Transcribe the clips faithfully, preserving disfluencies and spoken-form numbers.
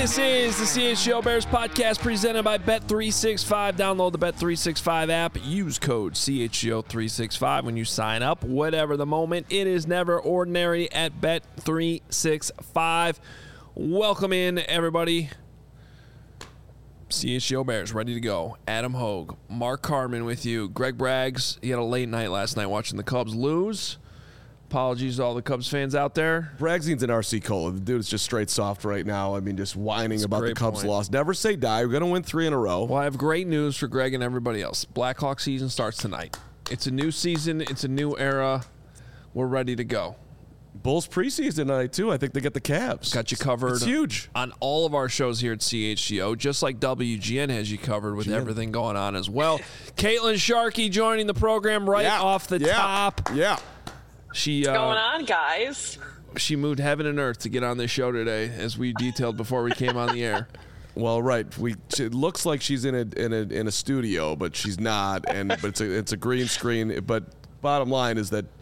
This is the C H G O Bears podcast presented by Bet three sixty-five. Download the Bet three sixty-five app. Use code C H G O three sixty-five when you sign up. Whatever the moment, it is never ordinary at Bet three sixty-five. Welcome in, everybody. C H G O Bears ready to go. Adam Hogue, Mark Carman with you. Greg Braggs, he had a late night last night watching the Cubs lose. Apologies to all the Cubs fans out there. Braggson's an R C Cola. The dude is just straight soft right now. I mean, just whining That's about the Cubs' point. loss. Never say die. We're going to win three in a row. Well, I have great news for Greg and everybody else. Blackhawk season starts tonight. It's a new season. It's a new era. We're ready to go. Bulls preseason tonight, too. I think they get the Cavs. Got you covered. It's huge. On all of our shows here at C H G O, just like W G N has you covered with G N. everything going on as well. Caitlin Sharkey joining the program right Yeah. off the yeah. top. Yeah. She, uh, What's going on, guys? She moved heaven and earth to get on this show today, as we detailed before we came on the air. Well, right. We it looks like she's in a in a in a studio, but she's not. And but it's a it's a green screen. But bottom line is that,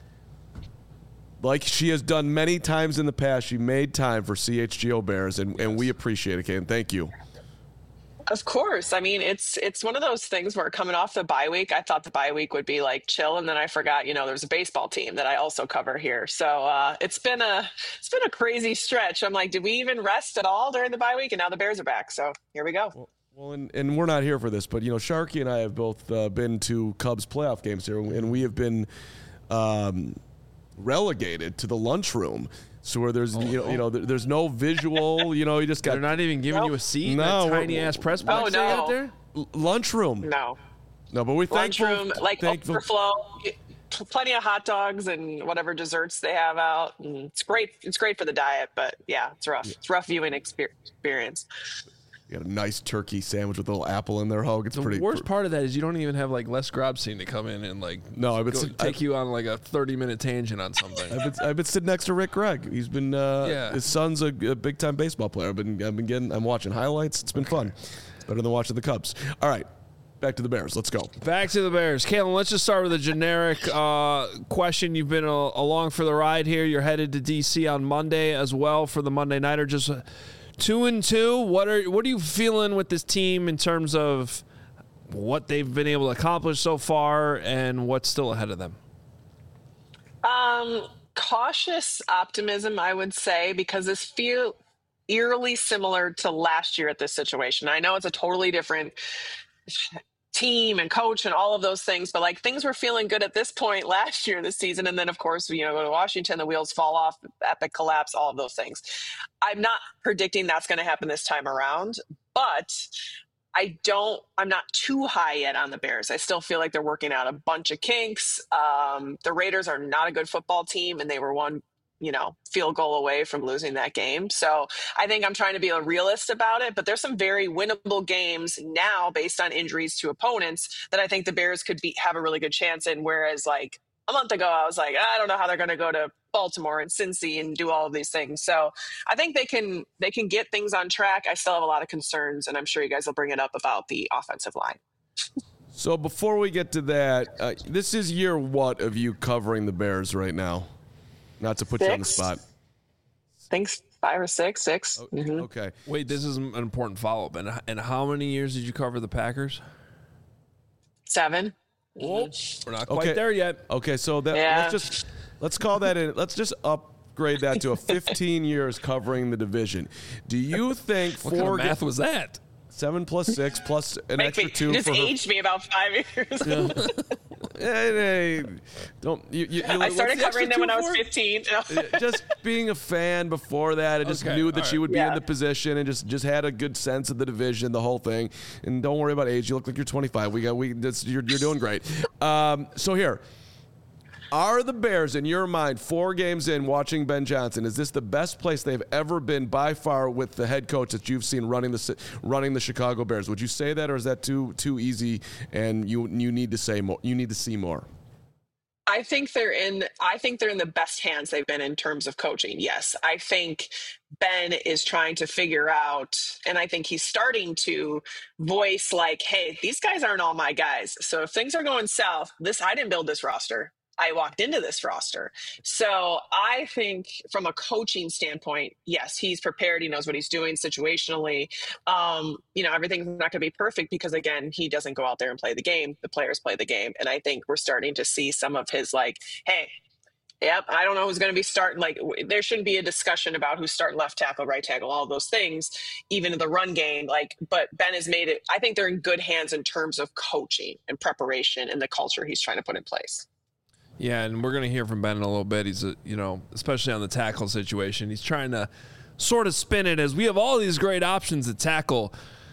like she has done many times in the past, she made time for C H G O Bears, and, and we appreciate it, Kate. Thank you. Of course. I mean, it's it's one of those things where coming off the bye week, I thought the bye week would be like chill, and then I forgot, you know, there's a baseball team that I also cover here. So uh, it's been a it's been a crazy stretch. I'm like, did we even rest at all during the bye week? And now the Bears are back. So here we go. Well, well and, and we're not here for this, but you know, Sharkey and I have both uh, been to Cubs playoff games here, and we have been um, relegated to the lunchroom. So where there's oh, you know, you know there's no visual, you know, you just got. They're not even giving nope. you a seat. No, that tiny ass press box oh, they no. got there. L- lunchroom. No. No, but we thankful. Lunchroom, like thankful. overflow, plenty of hot dogs and whatever desserts they have out. And it's great. It's great for the diet, but yeah, it's rough. It's rough viewing experience. You got a nice turkey sandwich with a little apple in there, Hogue. It's The pretty. worst part of that is you don't even have like Les Grobstein to come in and like No, I've been go, sit- take I've- you on like a thirty minute tangent on something. I've been, I've been sitting next to Rick Gregg. He's been. Uh, Yeah. His son's a, a big time baseball player. I've been. I've been getting. I'm watching highlights. It's been fun. It's better than watching the Cubs. All right, back to the Bears. Let's go. Back to the Bears. Caitlin, let's just start with a generic uh, question. You've been a, along for the ride here. You're headed to D C on Monday as well for the Monday Nighter. Just uh, two and two. What are what are you feeling with this team in terms of what they've been able to accomplish so far and what's still ahead of them? Um, cautious optimism, I would say, because this feel eerily similar to last year at this situation. I know it's a totally different team and coach and all of those things, but like things were feeling good at this point last year this season, and then of course, you know, go to Washington, the wheels fall off, epic collapse, all of those things. I'm not predicting that's going to happen this time around, but I don't, I'm not too high yet on the Bears. I still feel like they're working out a bunch of kinks. Um, the Raiders are not a good football team, and they were one, you know, field goal away from losing that game. So I think I'm trying to be a realist about it, but there's some very winnable games now based on injuries to opponents that I think the Bears could be, have a really good chance in. Whereas like a month ago, I was like, I don't know how they're going to go to Baltimore and Cincy and do all of these things. So I think they can, they can get things on track. I still have a lot of concerns, and I'm sure you guys will bring it up about the offensive line. So before we get to that, uh, this is year what of you covering the Bears right now? Not to put Six. you on the spot. Thanks. Five or six, six. Okay. Mhm. okay. Wait, this is an important follow-up. And, and how many years did you cover the Packers? Seven. Whoa, we're not quite Okay. there yet. Okay, so that Yeah. let's just let's call that in. Let's just upgrade that to a fifteen years covering the division. Do you think What kind four of math was that? seven plus six plus an Make extra me, two just for her? aged me about five years. Hey, hey, don't you? you, you I what's started the extra covering them two when I was for? fifteen. Just being a fan before that, I just Okay, knew that all she right. would be in Yeah. the position and just, just had a good sense of the division, the whole thing. And don't worry about age. You look like you're twenty-five. We got we. That's, you're you're doing great. Um, so here, are the Bears in your mind four games in watching Ben Johnson? Is this the best place they've ever been by far with the head coach that you've seen running the running the Chicago Bears? Would you say that, or is that too too easy and you you need to say more? You need to see more. I think they're in I think they're in the best hands they've been in terms of coaching. Yes. I think Ben is trying to figure out, and I think he's starting to voice like, hey, these guys aren't all my guys. So if things are going south, this I didn't build this roster. I walked into this roster. So I think from a coaching standpoint, yes, he's prepared. He knows what he's doing situationally. Um, you know, everything's not going to be perfect because, again, he doesn't go out there and play the game. The players play the game. And I think we're starting to see some of his like, hey, yep, I don't know who's going to be starting. Like, there shouldn't be a discussion about who's starting left tackle, right tackle, all of those things, even in the run game. Like, but Ben has made it. I think they're in good hands in terms of coaching and preparation and the culture he's trying to put in place. Yeah, and we're going to hear from Ben in a little bit. He's, a, you know, especially on the tackle situation, he's trying to sort of spin it as we have all these great options at tackle.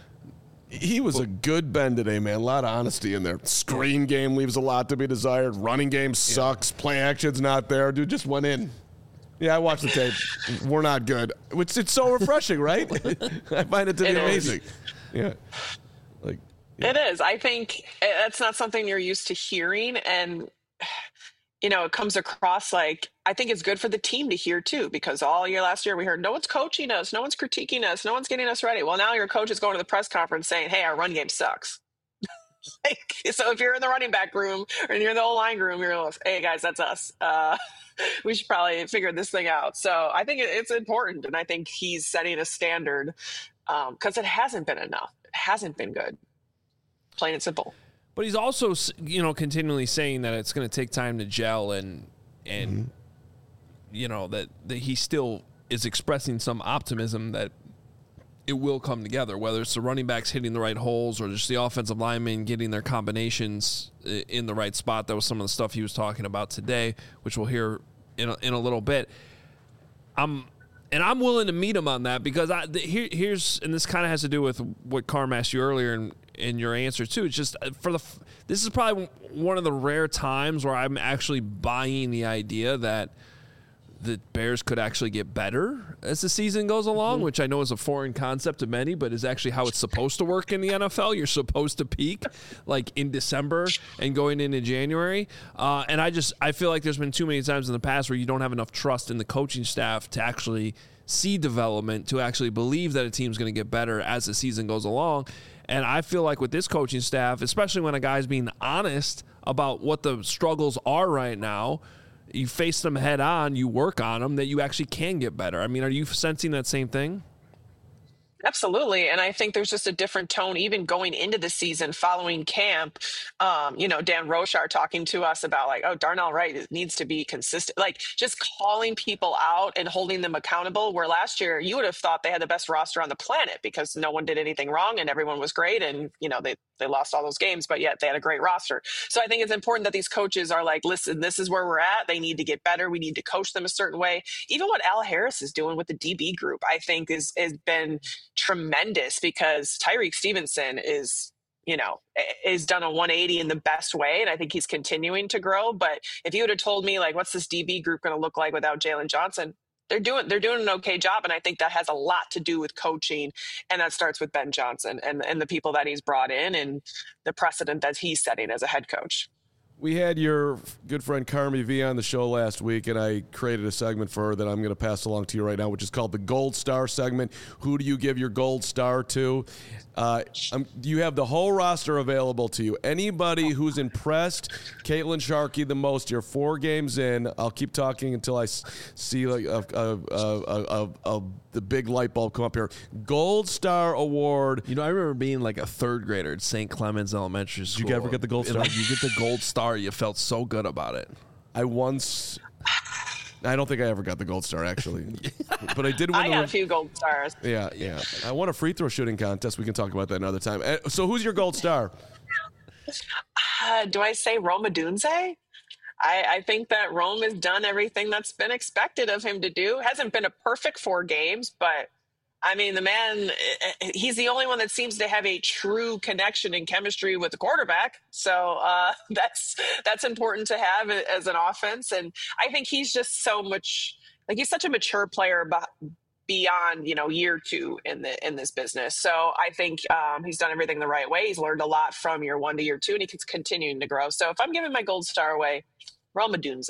He was a good Ben today, man. A lot of honesty in there. Screen game leaves a lot to be desired. Running game sucks. Yeah. Play action's not there. Dude just went in. Yeah, I watched the tape. We're not good. Which it's so refreshing, right? I find it to be it amazing. Is. Yeah. Like yeah. It is. I think that's not something you're used to hearing, and you know, it comes across like, I think it's good for the team to hear too, because all year last year we heard no one's coaching us, no one's critiquing us, no one's getting us ready. Well, now your coach is going to the press conference saying, hey, our run game sucks. Like, so if you're in the running back room or you're in the O-line room, you're like, hey guys, that's us. Uh, we should probably figure this thing out. So I think it's important. And I think he's setting a standard because um, it hasn't been enough. It hasn't been good. Plain and simple. But he's also, you know, continually saying that it's going to take time to gel and, and mm-hmm. you know, that, that he still is expressing some optimism that it will come together, whether it's the running backs hitting the right holes or just the offensive linemen getting their combinations in the right spot. That was some of the stuff he was talking about today, which we'll hear in a, in a little bit. I'm, and I'm willing to meet him on that because I, the, here, here's, and this kind of has to do with what Carm asked you earlier and, in your answer too. It's just for the this is probably one of the rare times where I'm actually buying the idea that the Bears could actually get better as the season goes along, mm-hmm. which I know is a foreign concept to many, but is actually how it's supposed to work in the N F L. You're supposed to peak like in December and going into January. Uh, and I just I feel like there's been too many times in the past where you don't have enough trust in the coaching staff to actually see development, to actually believe that a team's going to get better as the season goes along. And I feel like with this coaching staff, especially when a guy's being honest about what the struggles are right now, you face them head on, you work on them, that you actually can get better. I mean, are you sensing that same thing? Absolutely. And I think there's just a different tone even going into the season following camp. Um, you know, Dan Rochar talking to us about like, oh, Darnell Wright needs to be consistent, like just calling people out and holding them accountable. Where last year you would have thought they had the best roster on the planet because no one did anything wrong and everyone was great. And, you know, they, they lost all those games, but yet they had a great roster. So I think it's important that these coaches are like, listen, this is where we're at. They need to get better. We need to coach them a certain way. Even what Al Harris is doing with the D B group, I think is has been tremendous because Tyreek Stevenson is, you know, is done a one eighty in the best way. And I think he's continuing to grow. But if you would have told me like, what's this D B group going to look like without Jalen Johnson? They're doing, they're doing an okay job. And I think that has a lot to do with coaching. And that starts with Ben Johnson and, and the people that he's brought in and the precedent that he's setting as a head coach. We had your good friend Carmi V on the show last week, and I created a segment for her that I'm going to pass along to you right now, which is called the Gold Star segment. Who do you give your gold star to? Uh, um, you have the whole roster available to you. Anybody who's impressed Caitlin Sharkey the most, you're four games in. I'll keep talking until I s- see like a, a, a, a, a, the big light bulb come up here. Gold Star Award. You know, I remember being like a third grader at Saint Clemens Elementary School. Did you ever get the Gold Star? Like, you get the Gold Star, you felt so good about it. I once... I don't think I ever got the gold star, actually. But I did win I the got re- a few gold stars. Yeah, yeah. I won a free throw shooting contest. We can talk about that another time. So who's your gold star? Uh, do I say Roma Dunze? I, I think that Rome has done everything that's been expected of him to do. Hasn't been a perfect four games, but I mean, the man, he's the only one that seems to have a true connection and chemistry with the quarterback. So uh, that's that's important to have as an offense. And I think he's just so much, like he's such a mature player beyond, you know, year two in the in this business. So I think um, he's done everything the right way. He's learned a lot from year one to year two, and he's continuing to grow. So if I'm giving my gold star away, Rome Odunze.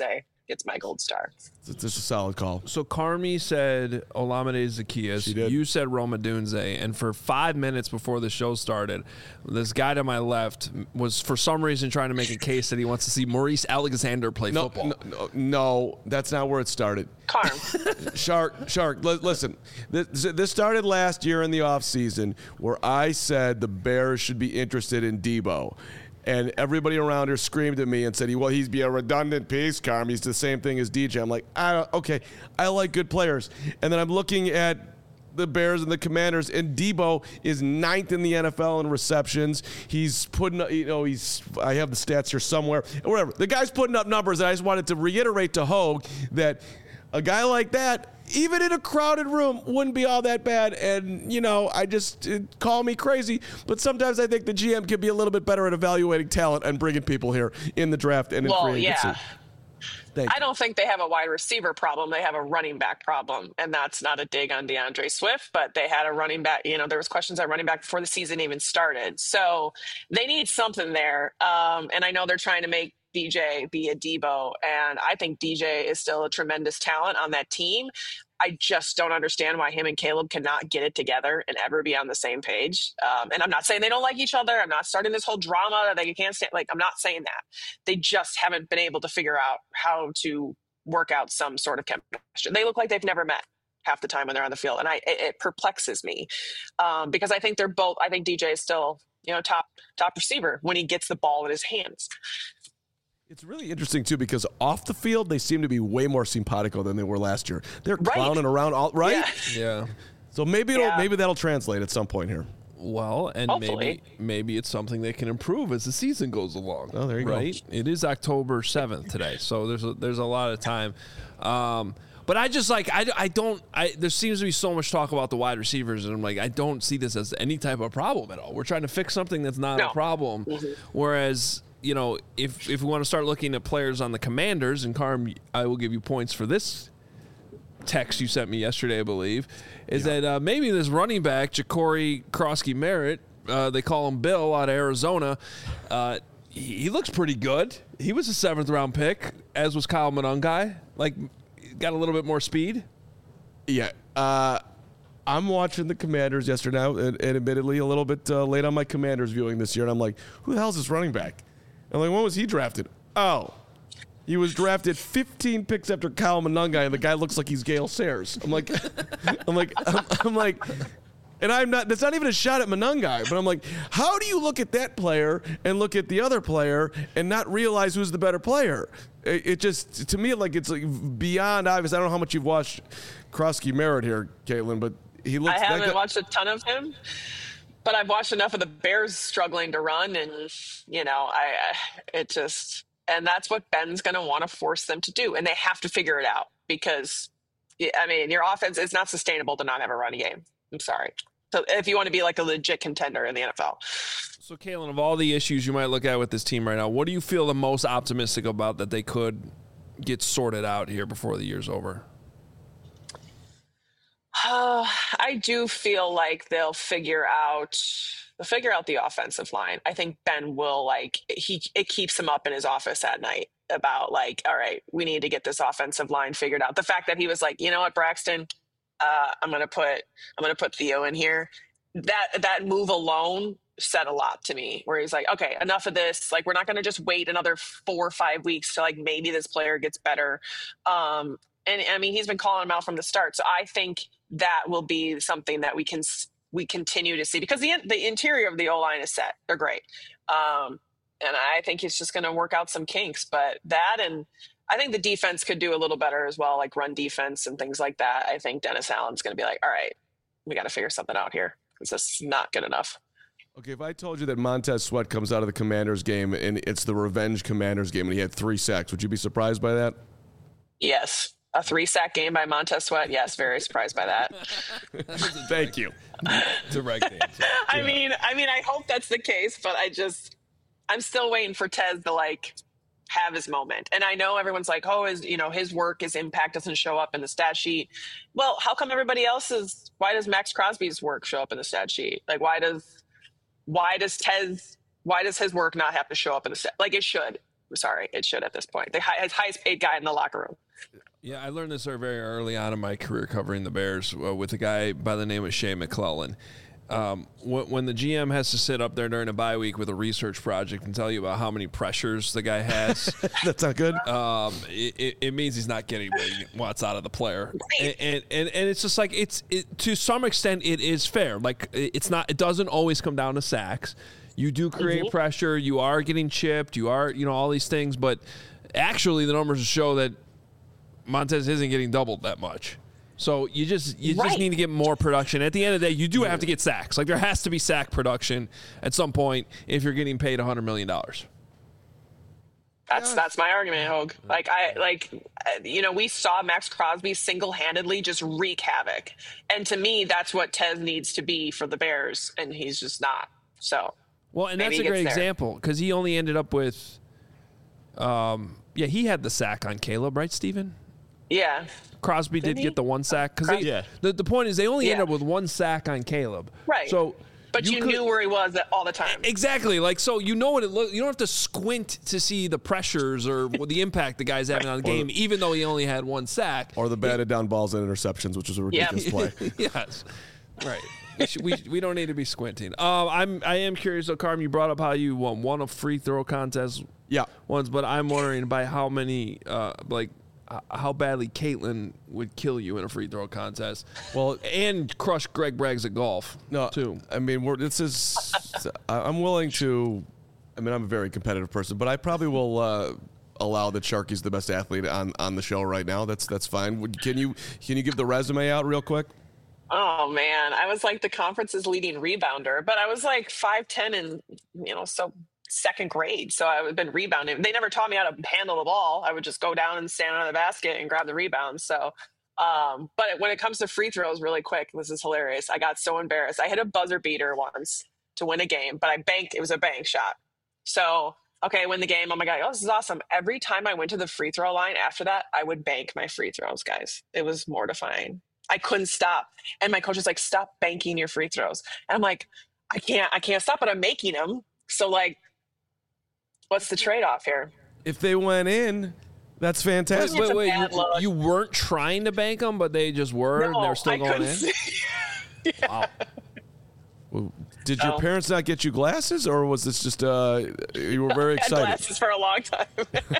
gets my gold star. It's just a solid call. So Carmi said Olamide Zaccheaus. You said Roma Dunze. And for five minutes before the show started, this guy to my left was for some reason trying to make a case that he wants to see Maurice Alexander play no, football. No, no, no, that's not where it started. Carm. Shark, Shark, li- listen. This, this started last year in the offseason where I said the Bears should be interested in Debo. And everybody around her screamed at me and said, well, he's be a redundant piece, Carm. He's the same thing as D J. I'm like, I don't, okay, I like good players. And then I'm looking at the Bears and the Commanders, and Debo is ninth in the N F L in receptions. He's putting, you know, he's, I have the stats here somewhere, whatever. The guy's putting up numbers, and I just wanted to reiterate to Hogue that a guy like that, even in a crowded room, wouldn't be all that bad. And, you know, I just, it, call me crazy, but sometimes I think the G M could be a little bit better at evaluating talent and bringing people here in the draft and in well, free agency. Yeah. Thank I you. don't think they have a wide receiver problem. They have a running back problem. And that's not a dig on DeAndre Swift, but they had a running back. You know, there was questions at running back before the season even started. So they need something there. Um, and I know they're trying to make D J be a Debo. And I think D J is still a tremendous talent on that team. I just don't understand why him and Caleb cannot get it together and ever be on the same page. Um, and I'm not saying they don't like each other. I'm not starting this whole drama that they can't stand. Like, I'm not saying that. They just haven't been able to figure out how to work out some sort of chemistry. They look like they've never met half the time when they're on the field. And I, it, it perplexes me um, because I think they're both, I think D J is still, you know, top, top receiver when he gets the ball in his hands. It's really interesting, too, because off the field, they seem to be way more simpatico than they were last year. They're Right. clowning around, all right? Yeah. Yeah. So maybe it'll, Yeah. maybe that'll translate at some point here. Well, and Hopefully. maybe maybe it's something they can improve as the season goes along. Oh, there you go. right? It is October seventh today, so there's a, there's a lot of time. Um, but I just like I, I don't I there seems to be so much talk about the wide receivers, and I'm like I don't see this as any type of problem at all. We're trying to fix something that's not No. a problem, Mhm. whereas. You know, if if we want to start looking at players on the Commanders, and Carm, I will give you points for this text you sent me yesterday, I believe, is Yeah. that uh, maybe this running back, Ja'Cory Krosky-Merritt, uh, they call him Bill out of Arizona, uh, he, he looks pretty good. He was a seventh round pick, as was Kyle Monangai. Like, got a little bit more speed. Yeah. Uh, I'm watching the Commanders yesterday now, and, and admittedly a little bit uh, late on my Commanders viewing this year, and I'm like, who the hell is this running back? I'm like, when was he drafted? Oh, he was drafted fifteen picks after Kyle Monangai, and the guy looks like he's Gale Sayers. I'm like, I'm like, I'm, I'm like, and I'm not. That's not even a shot at Monangai, but I'm like, how do you look at that player and look at the other player and not realize who's the better player? It, it just, to me, like it's like beyond obvious. I don't know how much you've watched Krosky-Merritt here, Caitlin, but he looks. I haven't that guy, watched a ton of him, but I've watched enough of the Bears struggling to run, and you know, I it just, and that's what Ben's going to want to force them to do, and they have to figure it out because, I mean, your offense is not sustainable to not have a running game. I'm sorry. So if you want to be like a legit contender in the N F L. So, Kalen, of all the issues you might look at with this team right now, what do you feel the most optimistic about that they could get sorted out here before the year's over? Uh, I do feel like they'll figure out they'll figure out the offensive line. I think Ben will like he it keeps him up in his office at night about like, all right, we need to get this offensive line figured out. The fact that he was like, you know what, Braxton, uh, I'm gonna put I'm gonna put Theo in here. That that move alone said a lot to me. Where he's like, okay, enough of this. Like, we're not gonna just wait another four or five weeks to like maybe this player gets better. Um, and I mean, he's been calling him out from the start. So I think that will be something that we can we continue to see because the the interior of the O-line is set. They're great. Um, and I think he's just going to work out some kinks. But that and I think the defense could do a little better as well, like run defense and things like that. I think Dennis Allen's going to be like, all right, we got to figure something out here because this is not good enough. Okay, if I told you that Montez Sweat comes out of the Commanders game and it's the revenge Commanders game and he had three sacks, would you be surprised by that? Yes. A three-sack game by Montez Sweat. Yes, very surprised by that. Thank you. Direct answer. I mean, I mean, I hope that's the case, but I just, I'm still waiting for Tez to like have his moment. And I know everyone's like, oh, his, you know, his work, his impact doesn't show up in the stat sheet. Well, how come everybody else's? Why does Max Crosby's work show up in the stat sheet? Like, why does, why does Tez, why does his work not have to show up in the stat? Like, it should. sorry, it should at this point. The high, highest paid guy in the locker room. Yeah, I learned this very early on in my career covering the Bears uh, with a guy by the name of Shea McClellan. Um, when, when the G M has to sit up there during a bye week with a research project and tell you about how many pressures the guy has, that's not good. Um, it, it means he's not getting what he wants out of the player, and and, and, and it's just like it's it, to some extent it is fair. Like it's not, it doesn't always come down to sacks. You do create mm-hmm. pressure. You are getting chipped. You are, you know, all these things, but actually the numbers show that Montez isn't getting doubled that much. So you just you right. just need to get more production. At the end of the day, you do have to get sacks. Like there has to be sack production at some point if you're getting paid one hundred million dollars. That's that's my argument, Hogue. Like I like, you know, we saw Max Crosby single-handedly just wreak havoc, and to me, that's what Tez needs to be for the Bears, and he's just not. So well, and that's a great example because he only ended up with, um, yeah, he had the sack on Caleb, right, Steven? Yeah. Crosby did, did get the one sack because yeah. the, the point is they only yeah. ended up with one sack on Caleb. Right. So, but you, you could, knew where he was all the time. Exactly. Like so, you know what it looks. You don't have to squint to see the pressures or the impact the guy's having on the game, the, even though he only had one sack or the batted down balls and interceptions, which was a ridiculous yeah. play. Yes. Right. we, should, we we don't need to be squinting. Uh, I'm I am curious though, Carm. You brought up how you won, won a free throw contest. Yeah. Once, but I'm wondering by how many uh, like. how badly Caitlin would kill you in a free throw contest. Well, and crush Greg Braggs at golf. No, too. I mean, we're, this is. I'm willing to. I mean, I'm a very competitive person, but I probably will uh, allow that Sharky's the best athlete on, on the show right now. That's that's fine. Can you can you give the resume out real quick? Oh man, I was like the conference's leading rebounder, but I was like five ten and you know so. second grade. So I would have been rebounding. They never taught me how to handle the ball. I would just go down and stand under the basket and grab the rebound. So, um, but when it comes to free throws really quick, this is hilarious. I got so embarrassed. I hit a buzzer beater once to win a game, but I banked, it was a bank shot. So, okay, win the game. Oh my God. Oh, this is awesome. Every time I went to the free throw line after that, I would bank my free throws, guys. It was mortifying. I couldn't stop. And my coach was like, stop banking your free throws. And I'm like, I can't, I can't stop, but I'm making them. So like, what's the trade-off here? If they went in, that's fantastic. Wait, wait, wait you, you weren't trying to bank them, but they just were, no, and they're still I going in? See. yeah. Wow. Well, did no. your parents not get you glasses, or was this just, uh, you were very I had excited? glasses for a long time.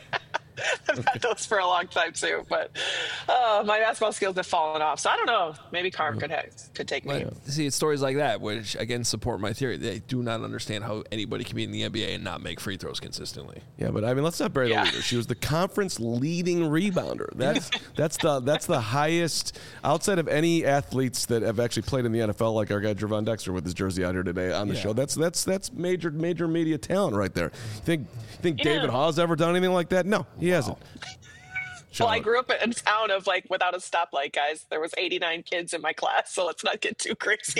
I've had those for a long time too, but uh, my basketball skills have fallen off. So I don't know. Maybe Carm could have, could take me. Well, see, it's stories like that, which again support my theory. They do not understand how anybody can be in the N B A and not make free throws consistently. Yeah, but I mean, let's not bury Yeah. the leader. She was the conference leading rebounder. That's that's the that's the highest outside of any athletes that have actually played in the N F L, like our guy Javon Dexter with his jersey out here today on the Yeah. show. That's that's that's major major media talent right there. You think you think Yeah. David Hawes ever done anything like that? No, he hasn't. Well, I grew up in a town of like without a stoplight, guys. There was eighty-nine kids in my class, so let's not get too crazy.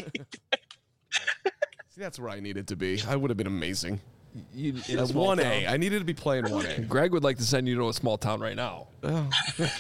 See, that's where I needed to be. I would have been amazing. You, in That's one A. I needed to be playing one A. Greg would like to send you to a small town right now. Oh.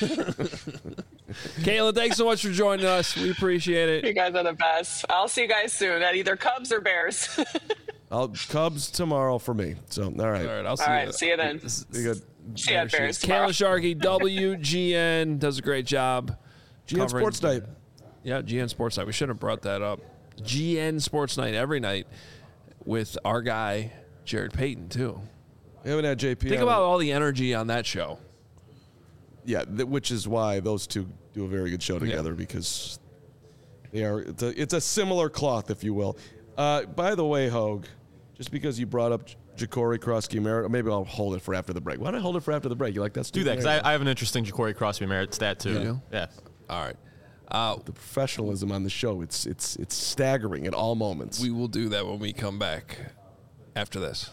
Kayla, thanks so much for joining us. We appreciate it. You guys are the best. I'll see you guys soon at either Cubs or Bears. I'll Cubs tomorrow for me. So all right. All right, I'll see All you. right, see you then. Be good. See you at Bears Kayla tomorrow. Sharkey, W G N, does a great job. G N covering- Sports Night. Yeah, G N Sports Night. We should have brought that up. G N Sports Night every night with our guy, Jared Payton, too. We haven't had J P. Think on. about all the energy on that show. Yeah, th- which is why those two do a very good show together, Yeah. because they are. It's a, it's a similar cloth, if you will. Uh, by the way, Hogue, just because you brought up J- Ja'Cory Crosby Merritt, maybe I'll hold it for after the break. Why don't I hold it for after the break? You like that? Do that, because I, I have an interesting Ja'Cory Crosby Merritt stat, too. You do? Yeah. All right. Uh, The professionalism on the show, it's it's it's staggering at all moments. we will do that when we come back after this.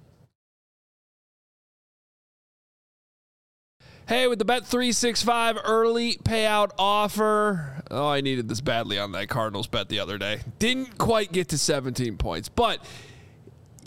Hey, with the Bet three sixty-five early payout offer. Oh, I needed this badly on that Cardinals bet the other day. Didn't quite get to seventeen points, but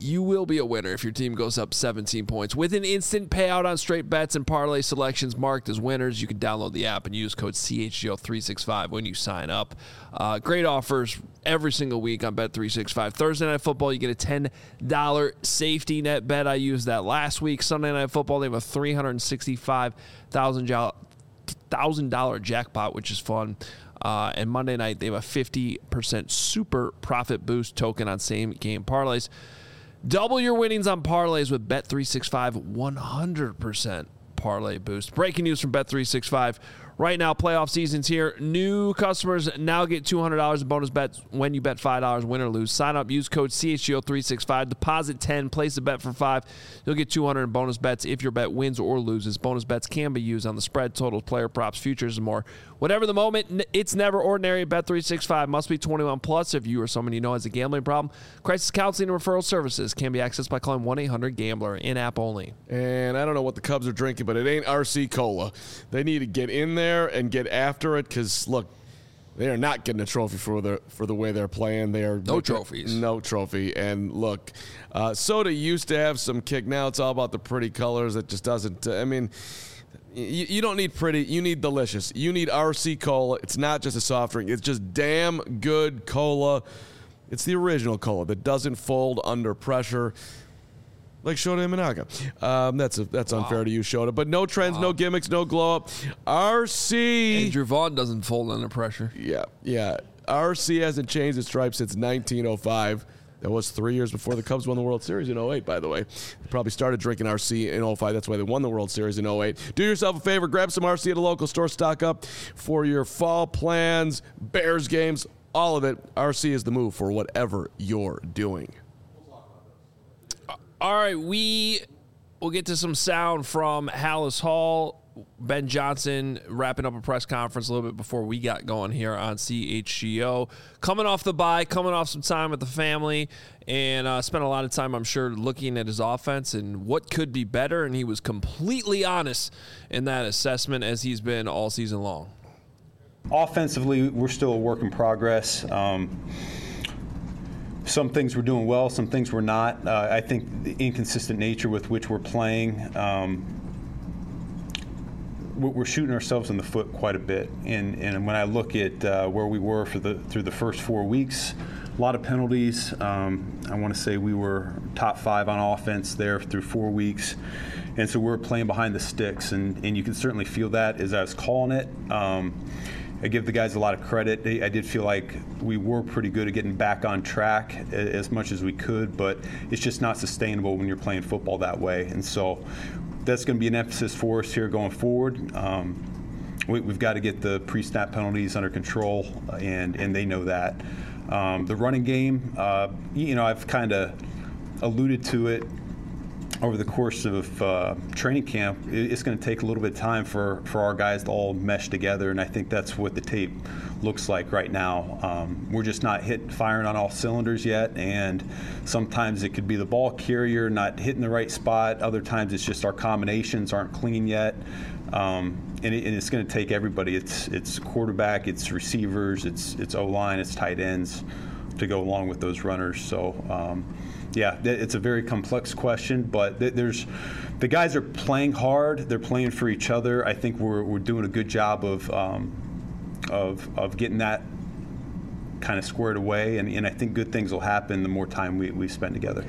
you will be a winner if your team goes up seventeen points. With an instant payout on straight bets and parlay selections marked as winners, you can download the app and use code C H G O three sixty-five when you sign up. Uh, great offers every single week on Bet three sixty-five. Thursday Night Football, you get a ten dollars safety net bet. I used that last week. Sunday Night Football, they have a three hundred sixty-five thousand dollars jackpot, which is fun. Uh, and Monday night, they have a fifty percent super profit boost token on same game parlays. Double your winnings on parlays with Bet three sixty-five one hundred percent parlay boost. Breaking news from Bet three sixty-five. Right now, playoff season's here. New customers now get two hundred dollars in bonus bets when you bet five dollars, win or lose. Sign up, use code C H G O three sixty-five, deposit ten, place a bet for five. You'll get two hundred dollars in bonus bets if your bet wins or loses. Bonus bets can be used on the spread, totals, player props, futures, and more. Whatever the moment, it's never ordinary. Bet three sixty-five must be twenty-one plus if you or someone you know has a gambling problem. Crisis counseling and referral services can be accessed by calling one eight hundred gambler, in-app only. And I don't know what the Cubs are drinking, but it ain't R C Cola. They need to get in there and get after it because, look, they are not getting a trophy for the for the way they're playing. They are no trophies. No trophy. And look, uh, soda used to have some kick. Now it's all about the pretty colors. It just doesn't. Uh, I mean, you, you don't need pretty. You need delicious. You need R C Cola. It's not just a soft drink. It's just damn good cola. It's the original cola that doesn't fold under pressure. Like Shota Imanaga. Um, that's a, that's unfair wow. to you, Shota. But no trends, wow. no gimmicks, no glow up. R C. Andrew Vaughn doesn't fold under pressure. Yeah, yeah. R C hasn't changed its stripes since nineteen oh five. That was three years before the Cubs won the World Series in oh eight, by the way. They probably started drinking R C in oh five. That's why they won the World Series in oh eight. Do yourself a favor. Grab some R C at a local store. Stock up for your fall plans, Bears games, all of it. R C is the move for whatever you're doing. All right, we will get to some sound from Halas Hall. Ben Johnson wrapping up a press conference a little bit before we got going here on C H G O. Coming off the bye, coming off some time with the family, and uh, spent a lot of time, I'm sure, looking at his offense and what could be better, and he was completely honest in that assessment as he's been all season long. Offensively, we're still a work in progress. Um, Some things we're doing well, some things we're not. Uh, I think the inconsistent nature with which we're playing, um, we're shooting ourselves in the foot quite a bit. And, and when I look at uh, where we were for the through the first four weeks, a lot of penalties. Um, I want to say we were top five on offense there through four weeks. And so we're playing behind the sticks, and, and you can certainly feel that as I was calling it. Um, I give the guys a lot of credit. I did feel like we were pretty good at getting back on track as much as we could, but it's just not sustainable when you're playing football that way. And so that's going to be an emphasis for us here going forward. Um, we, we've got to get the pre-snap penalties under control, and, and they know that. Um, the running game, uh, you know, I've kind of alluded to it over the course of uh, training camp. It's going to take a little bit of time for, for our guys to all mesh together, and I think that's what the tape looks like right now. Um, we're just not hit firing on all cylinders yet, and sometimes it could be the ball carrier not hitting the right spot. Other times it's just our combinations aren't clean yet, um, and, it, and it's going to take everybody. It's it's quarterback, it's receivers, it's it's O-line, it's tight ends to go along with those runners. So. Um, Yeah, it's a very complex question, but there's the guys are playing hard. They're playing for each other. I think we're we're doing a good job of um, of of getting that kind of squared away, and, and I think good things will happen the more time we, we spend together.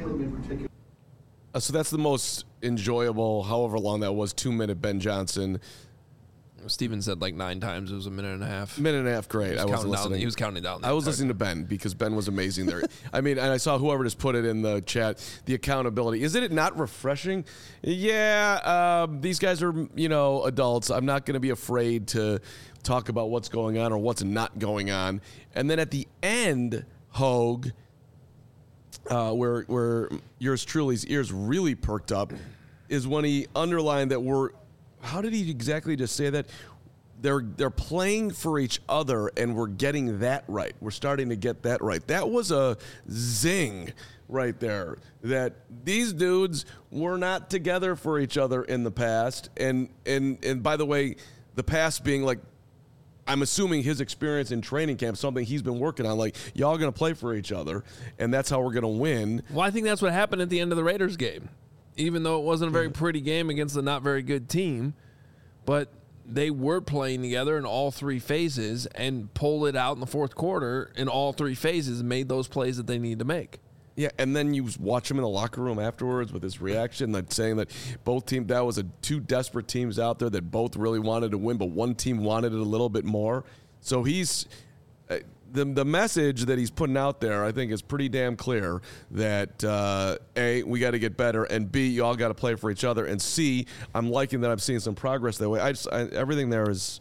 Uh, so that's the most enjoyable, however long that was, two-minute Ben Johnson. Steven said like nine times it was a minute and a half. Minute and a half, great. I was was listening. Down, he was counting down. I was listening to Ben because Ben was amazing there. I mean, and I saw whoever just put it in the chat, the accountability. Isn't it not refreshing? Yeah, um, these guys are, you know, adults. I'm not going to be afraid to talk about what's going on or what's not going on. And then at the end, Hogue, uh, where where yours truly's ears really perked up, is when he underlined that we're, how did he exactly just say that? They're they're playing for each other, and we're getting that right. We're starting to get that right. That was a zing right there. That these dudes were not together for each other in the past. And and and by the way, the past being like I'm assuming his experience in training camp, something he's been working on, like, y'all going to play for each other, and that's how we're going to win. Well, I think that's what happened at the end of the Raiders game. Even though it wasn't a very pretty game against a not very good team, but they were playing together in all three phases and pulled it out in the fourth quarter in all three phases and made those plays that they need to make. Yeah, and then you watch him in the locker room afterwards with his reaction, like saying that both teams, that was a two desperate teams out there that both really wanted to win, but one team wanted it a little bit more. So he's uh, the the message that he's putting out there, I think, is pretty damn clear that uh, A, we got to get better, and B, you all got to play for each other, and C, I'm liking that I'm seeing some progress that way. I just I, everything there is.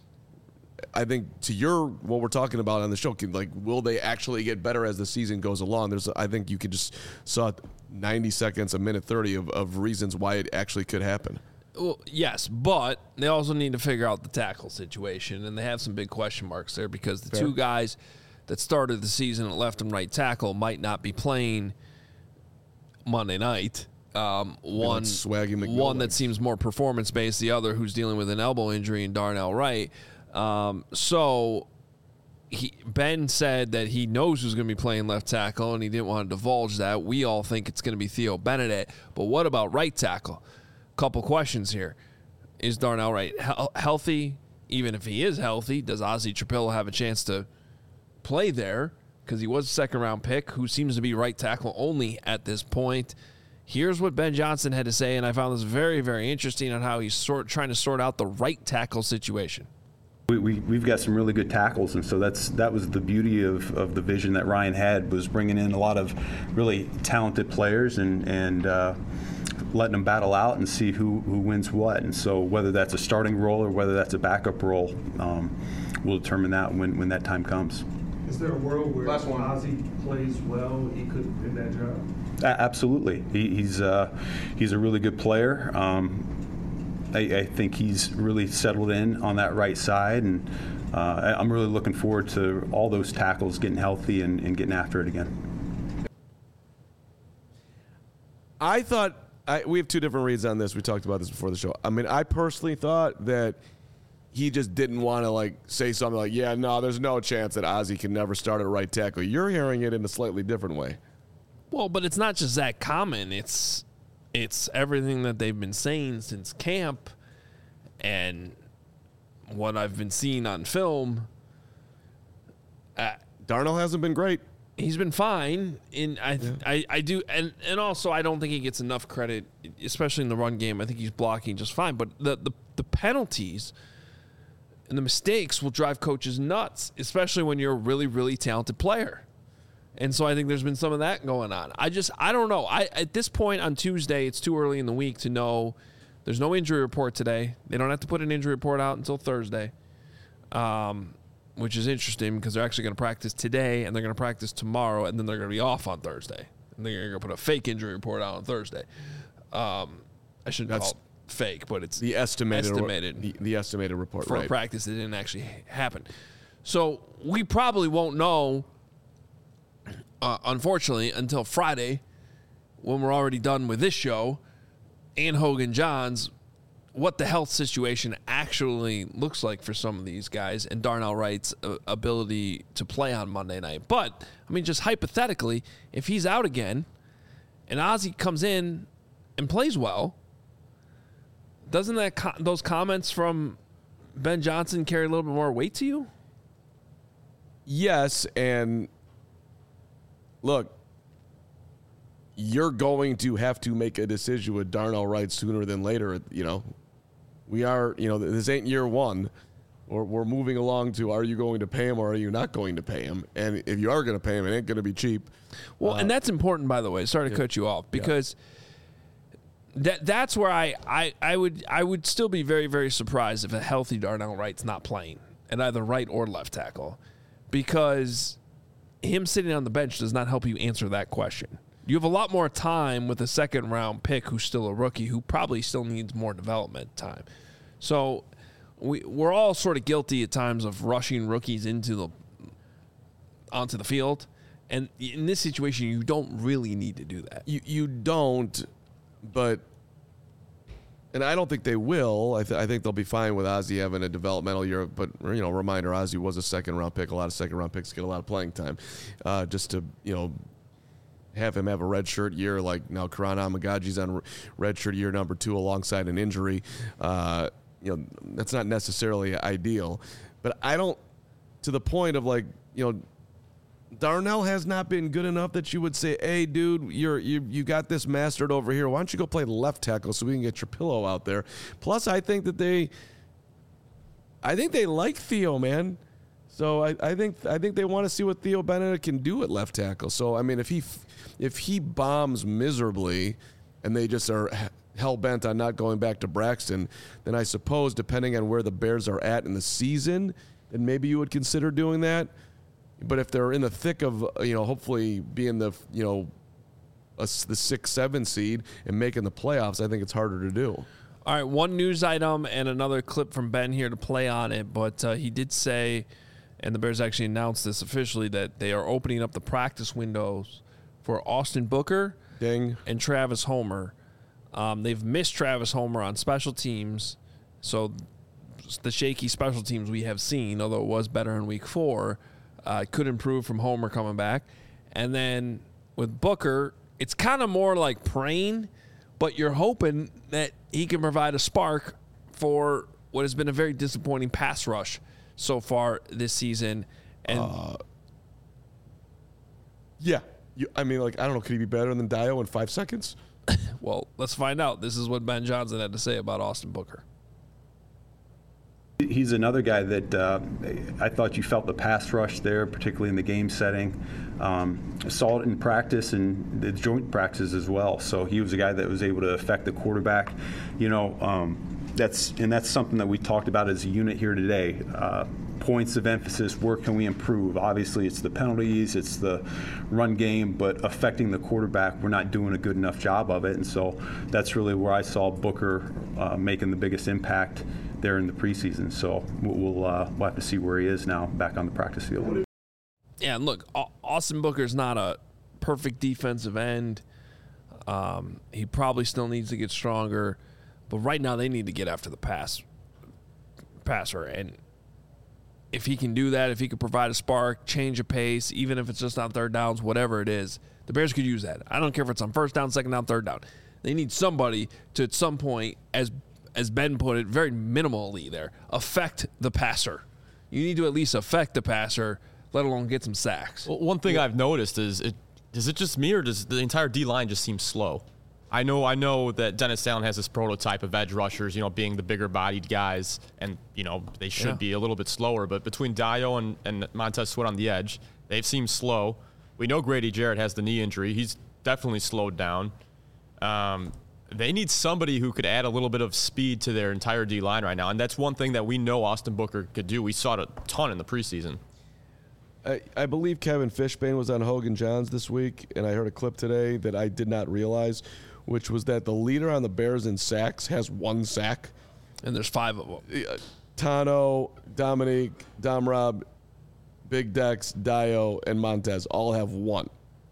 I think to your what we're talking about on the show, like, will they actually get better as the season goes along? There's, I think you could just saw ninety seconds, a minute thirty of, of reasons why it actually could happen. Well, yes, but they also need to figure out the tackle situation, and they have some big question marks there because the Fair. two guys that started the season at left and right tackle might not be playing Monday night. Um, one, Swaggy McNeil one that legs. seems more performance based, the other who's dealing with an elbow injury in Darnell Wright. Um, so he, Ben said that he knows who's going to be playing left tackle, and he didn't want to divulge that. We all think it's going to be Theo Benedict, but what about right tackle? Couple questions here. Is Darnell Wright he- healthy? Even if he is healthy, does Ozzie Trapillo have a chance to play there? Because he was a second-round pick who seems to be right tackle only at this point. Here's what Ben Johnson had to say, and I found this very, very interesting on how he's sort trying to sort out the right tackle situation. We, we, we've got some really good tackles, and so that's that was the beauty of, of the vision that Ryan had, was bringing in a lot of really talented players and, and uh, letting them battle out and see who, who wins what. And so whether that's a starting role or whether that's a backup role, um, we'll determine that when, when that time comes. Is there a world where Ozzie plays well, he could win that job? A- absolutely. He, he's, uh, he's a really good player. Um, I, I think he's really settled in on that right side, and uh, I'm really looking forward to all those tackles getting healthy and, and getting after it again. I thought I, we have two different reads on this. We talked about this before the show. I mean, I personally thought that he just didn't want to like say something like, "Yeah, no, there's no chance that Ozzie can never start at right tackle." You're hearing it in a slightly different way. Well, but it's not just that common. It's it's everything that they've been saying since camp and what I've been seeing on film. Uh, Darnell hasn't been great. He's been fine, and I, yeah. I, I do, and, and also I don't think he gets enough credit, especially in the run game. I think he's blocking just fine, but the the, the penalties and the mistakes will drive coaches nuts, especially when you're a really, really talented player. And so I think there's been some of that going on. I just, I don't know. I At this point on Tuesday, it's too early in the week to know. There's no injury report today. They don't have to put an injury report out until Thursday, um, which is interesting because they're actually going to practice today and they're going to practice tomorrow, and then they're going to be off on Thursday. And they're going to put a fake injury report out on Thursday. Um, I shouldn't That's call it fake, but it's the estimated, estimated the, the estimated report for right. a practice that didn't actually happen. So we probably won't know, uh, unfortunately, until Friday when we're already done with this show and Hogan Johns, what the health situation actually looks like for some of these guys and Darnell Wright's uh, ability to play on Monday night. But, I mean, just hypothetically, if he's out again and Ozzie comes in and plays well, doesn't that co- those comments from Ben Johnson carry a little bit more weight to you? Yes, and look, you're going to have to make a decision with Darnell Wright sooner than later. You know, we are, you know, this ain't year one. We're, we're moving along to, are you going to pay him or are you not going to pay him? And if you are going to pay him, it ain't going to be cheap. Well, uh, and that's important, by the way. Sorry to yeah. cut you off, because yeah. that that's where I, I, I would I would still be very, very surprised if a healthy Darnell Wright's not playing at either right or left tackle, because him sitting on the bench does not help you answer that question. You have a lot more time with a second round pick who's still a rookie who probably still needs more development time. So we we're all sort of guilty at times of rushing rookies into the onto the field. And in this situation, you don't really need to do that. You you don't, but and I don't think they will. I, th- I think they'll be fine with Ozzie having a developmental year. But, you know, reminder, Ozzie was a second-round pick. A lot of second-round picks get a lot of playing time. Uh, just to, you know, have him have a redshirt year like now Karan Amagaji's on redshirt year number two alongside an injury. Uh, you know, that's not necessarily ideal. But I don't, to the point of like, you know, Darnell has not been good enough that you would say, hey, dude, you're, you you got this mastered over here. Why don't you go play left tackle so we can get your pillow out there? Plus, I think that they I think they like Theo, man. So I, I think I think they want to see what Theo Benedict can do at left tackle. So, I mean, if he if he bombs miserably and they just are hell-bent on not going back to Braxton, then I suppose, depending on where the Bears are at in the season, then maybe you would consider doing that. But if they're in the thick of, you know, hopefully being the, you know, a, the six, seven seed and making the playoffs, I think it's harder to do. All right, one news item and another clip from Ben here to play on it. But uh, he did say, and the Bears actually announced this officially, that they are opening up the practice windows for Austin Booker Ding. and Travis Homer. Um, they've missed Travis Homer on special teams. So the shaky special teams we have seen, although it was better in week four, Uh, could improve from Homer coming back. And then with Booker, it's kind of more like praying, but you're hoping that he can provide a spark for what has been a very disappointing pass rush so far this season. And uh, yeah, you, I mean, like, I don't know, could he be better than Dio in five seconds? Well, let's find out. This is what Ben Johnson had to say about Austin Booker. He's another guy that uh, I thought you felt the pass rush there, particularly in the game setting. Um, saw it in practice and the joint practices as well. So he was a guy that was able to affect the quarterback. You know, um, that's and that's something that we talked about as a unit here today. Uh, points of emphasis, where can we improve? Obviously, it's the penalties, it's the run game, but affecting the quarterback, we're not doing a good enough job of it. And so that's really where I saw Booker uh, making the biggest impact there in the preseason. So we'll uh, we'll have to see where he is now back on the practice field. Yeah, and look, Austin Booker's not a perfect defensive end. Um, he probably still needs to get stronger, but right now they need to get after the pass passer. And if he can do that, if he can provide a spark, change of pace, even if it's just on third downs, whatever it is, the Bears could use that. I don't care if it's on first down, second down, third down. They need somebody to, at some point, as as Ben put it, very minimally there, affect the passer. You need to at least affect the passer, let alone get some sacks. Well, one thing yeah. I've noticed is, it, is it just me or does the entire D-line just seem slow? I know I know that Dennis Allen has this prototype of edge rushers, you know, being the bigger-bodied guys, and, you know, they should yeah. be a little bit slower. But between Dio and, and Montez Sweat on the edge, they've seemed slow. We know Grady Jarrett has the knee injury. He's definitely slowed down. Um, they need somebody who could add a little bit of speed to their entire D-line right now, and that's one thing that we know Austin Booker could do. We saw it a ton in the preseason. I, I believe Kevin Fishbane was on Hogan Johns this week, and I heard a clip today that I did not realize, which was that the leader on the Bears in sacks has one sack. And there's five of them. Uh, Tano, Dominique, Domrob, Big Dex, Dio, and Montez all have one.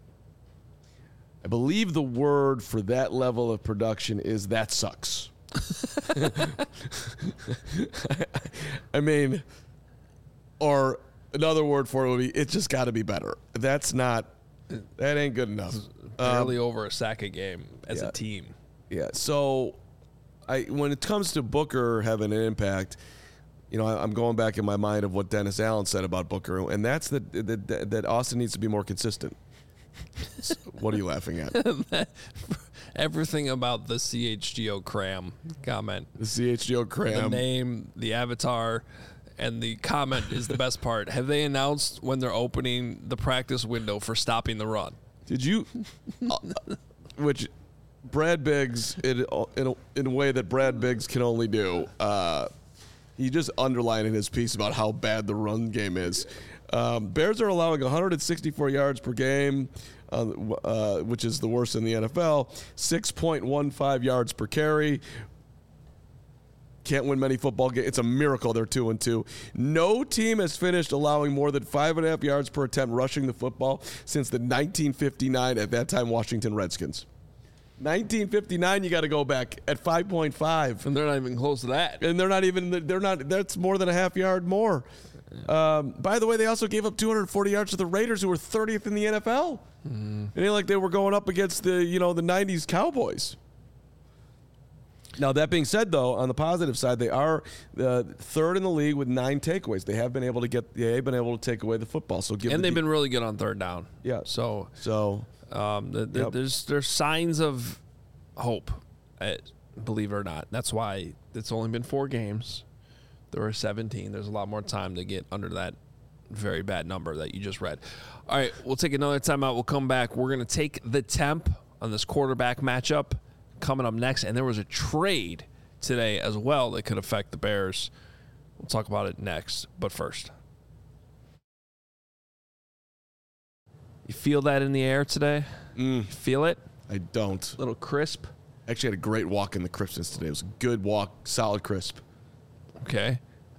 I believe the word for that level of production is that sucks. I mean, or another word for it would be, it's just got to be better. That's not, that ain't good enough. Barely um, over a sack a game as yeah, a team. Yeah. So, I when it comes to Booker having an impact, you know, I, I'm going back in my mind of what Dennis Allen said about Booker, and that's that that, that Austin needs to be more consistent. What are you laughing at? Everything about the C H G O cram comment. The C H G O cram. The name, the avatar, and the comment is the best part. Have they announced when they're opening the practice window for stopping the run? Did you? uh, which Brad Biggs, in, in, a, in a way that Brad Biggs can only do, uh, he just underlined in his piece about how bad the run game is. Um, Bears are allowing one hundred sixty-four yards per game, uh, uh, which is the worst in the N F L, six point one five yards per carry. Can't win many football games. It's a miracle they're two and two. No team has finished allowing more than five and a half yards per attempt rushing the football since the nineteen fifty-nine, at that time, Washington Redskins. nineteen fifty-nine, you got to go back at five point five. And they're not even close to that. And they're not even, they're not, that's more than a half yard more. Um, by the way, they also gave up two hundred forty yards to the Raiders, who were thirtieth in the N F L. Mm. It ain't like they were going up against the, you know, the nineties Cowboys. Now, that being said, though, on the positive side, they are uh, third in the league with nine takeaways. They have been able to get, they've been able to take away the football. So give and the they've de- been really good on third down. Yeah. So, so um, the, the, yep. there's there's signs of hope, uh, believe it or not. That's why it's only been four games. There were seventeen. There's a lot more time to get under that very bad number that you just read. All right, we'll take another timeout. We'll come back. We're going to take the temp on this quarterback matchup coming up next. And there was a trade today as well that could affect the Bears. We'll talk about it next. But first, you feel that in the air today? Mm. You feel it? I don't. A little crisp? Actually had a great walk in the crispness today. It was a good walk, solid crisp. Okay.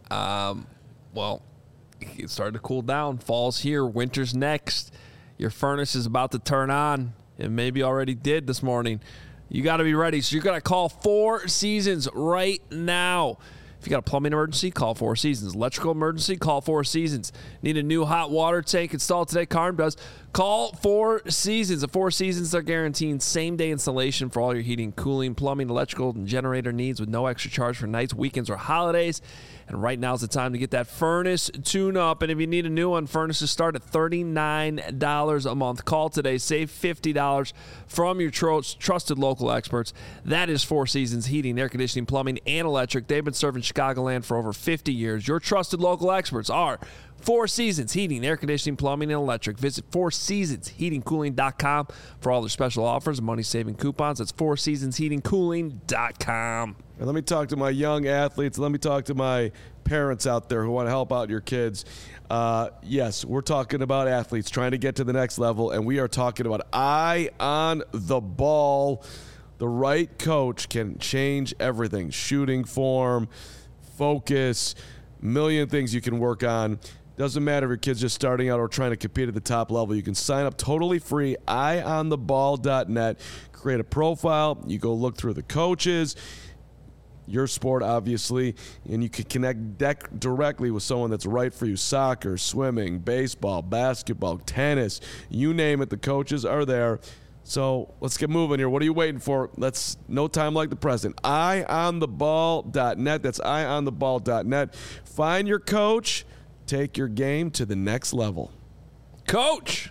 Um, well, it started to cool down. Fall's here. Winter's next. Your furnace is about to turn on. It maybe already did this morning. You got to be ready. So you're going to call Four Seasons right now. If you got a plumbing emergency, call Four Seasons. Electrical emergency, call Four Seasons. Need a new hot water tank installed today? Carm does. Call Four Seasons. The Four Seasons are guaranteeing same-day installation for all your heating, cooling, plumbing, electrical, and generator needs with no extra charge for nights, weekends, or holidays. And right now is the time to get that furnace tune-up. And if you need a new one, furnaces start at thirty-nine dollars a month. Call today. Save fifty dollars from your tro- trusted local experts. That is Four Seasons Heating, Air Conditioning, Plumbing, and Electric. They've been serving Chicagoland for over fifty years. Your trusted local experts are Four Seasons Heating, Air Conditioning, Plumbing, and Electric. Visit four seasons heating cooling dot com for all their special offers and money-saving coupons. That's four seasons heating cooling dot com. And let me talk to my young athletes. Let me talk to my parents out there who want to help out your kids. Uh, yes, we're talking about athletes trying to get to the next level, and we are talking about eye on the ball. The right coach can change everything. Shooting form, focus, million things you can work on. Doesn't matter if your kid's just starting out or trying to compete at the top level. You can sign up totally free, eye on the ball dot net. Create a profile. You go look through the coaches, your sport, obviously, and you can connect dec- directly with someone that's right for you. Soccer, swimming, baseball, basketball, tennis, you name it, the coaches are there. So let's get moving here. What are you waiting for? Let's no time like the present. eye on the ball dot net. That's eye on the ball dot net. Find your coach. Take your game to the next level. Coach!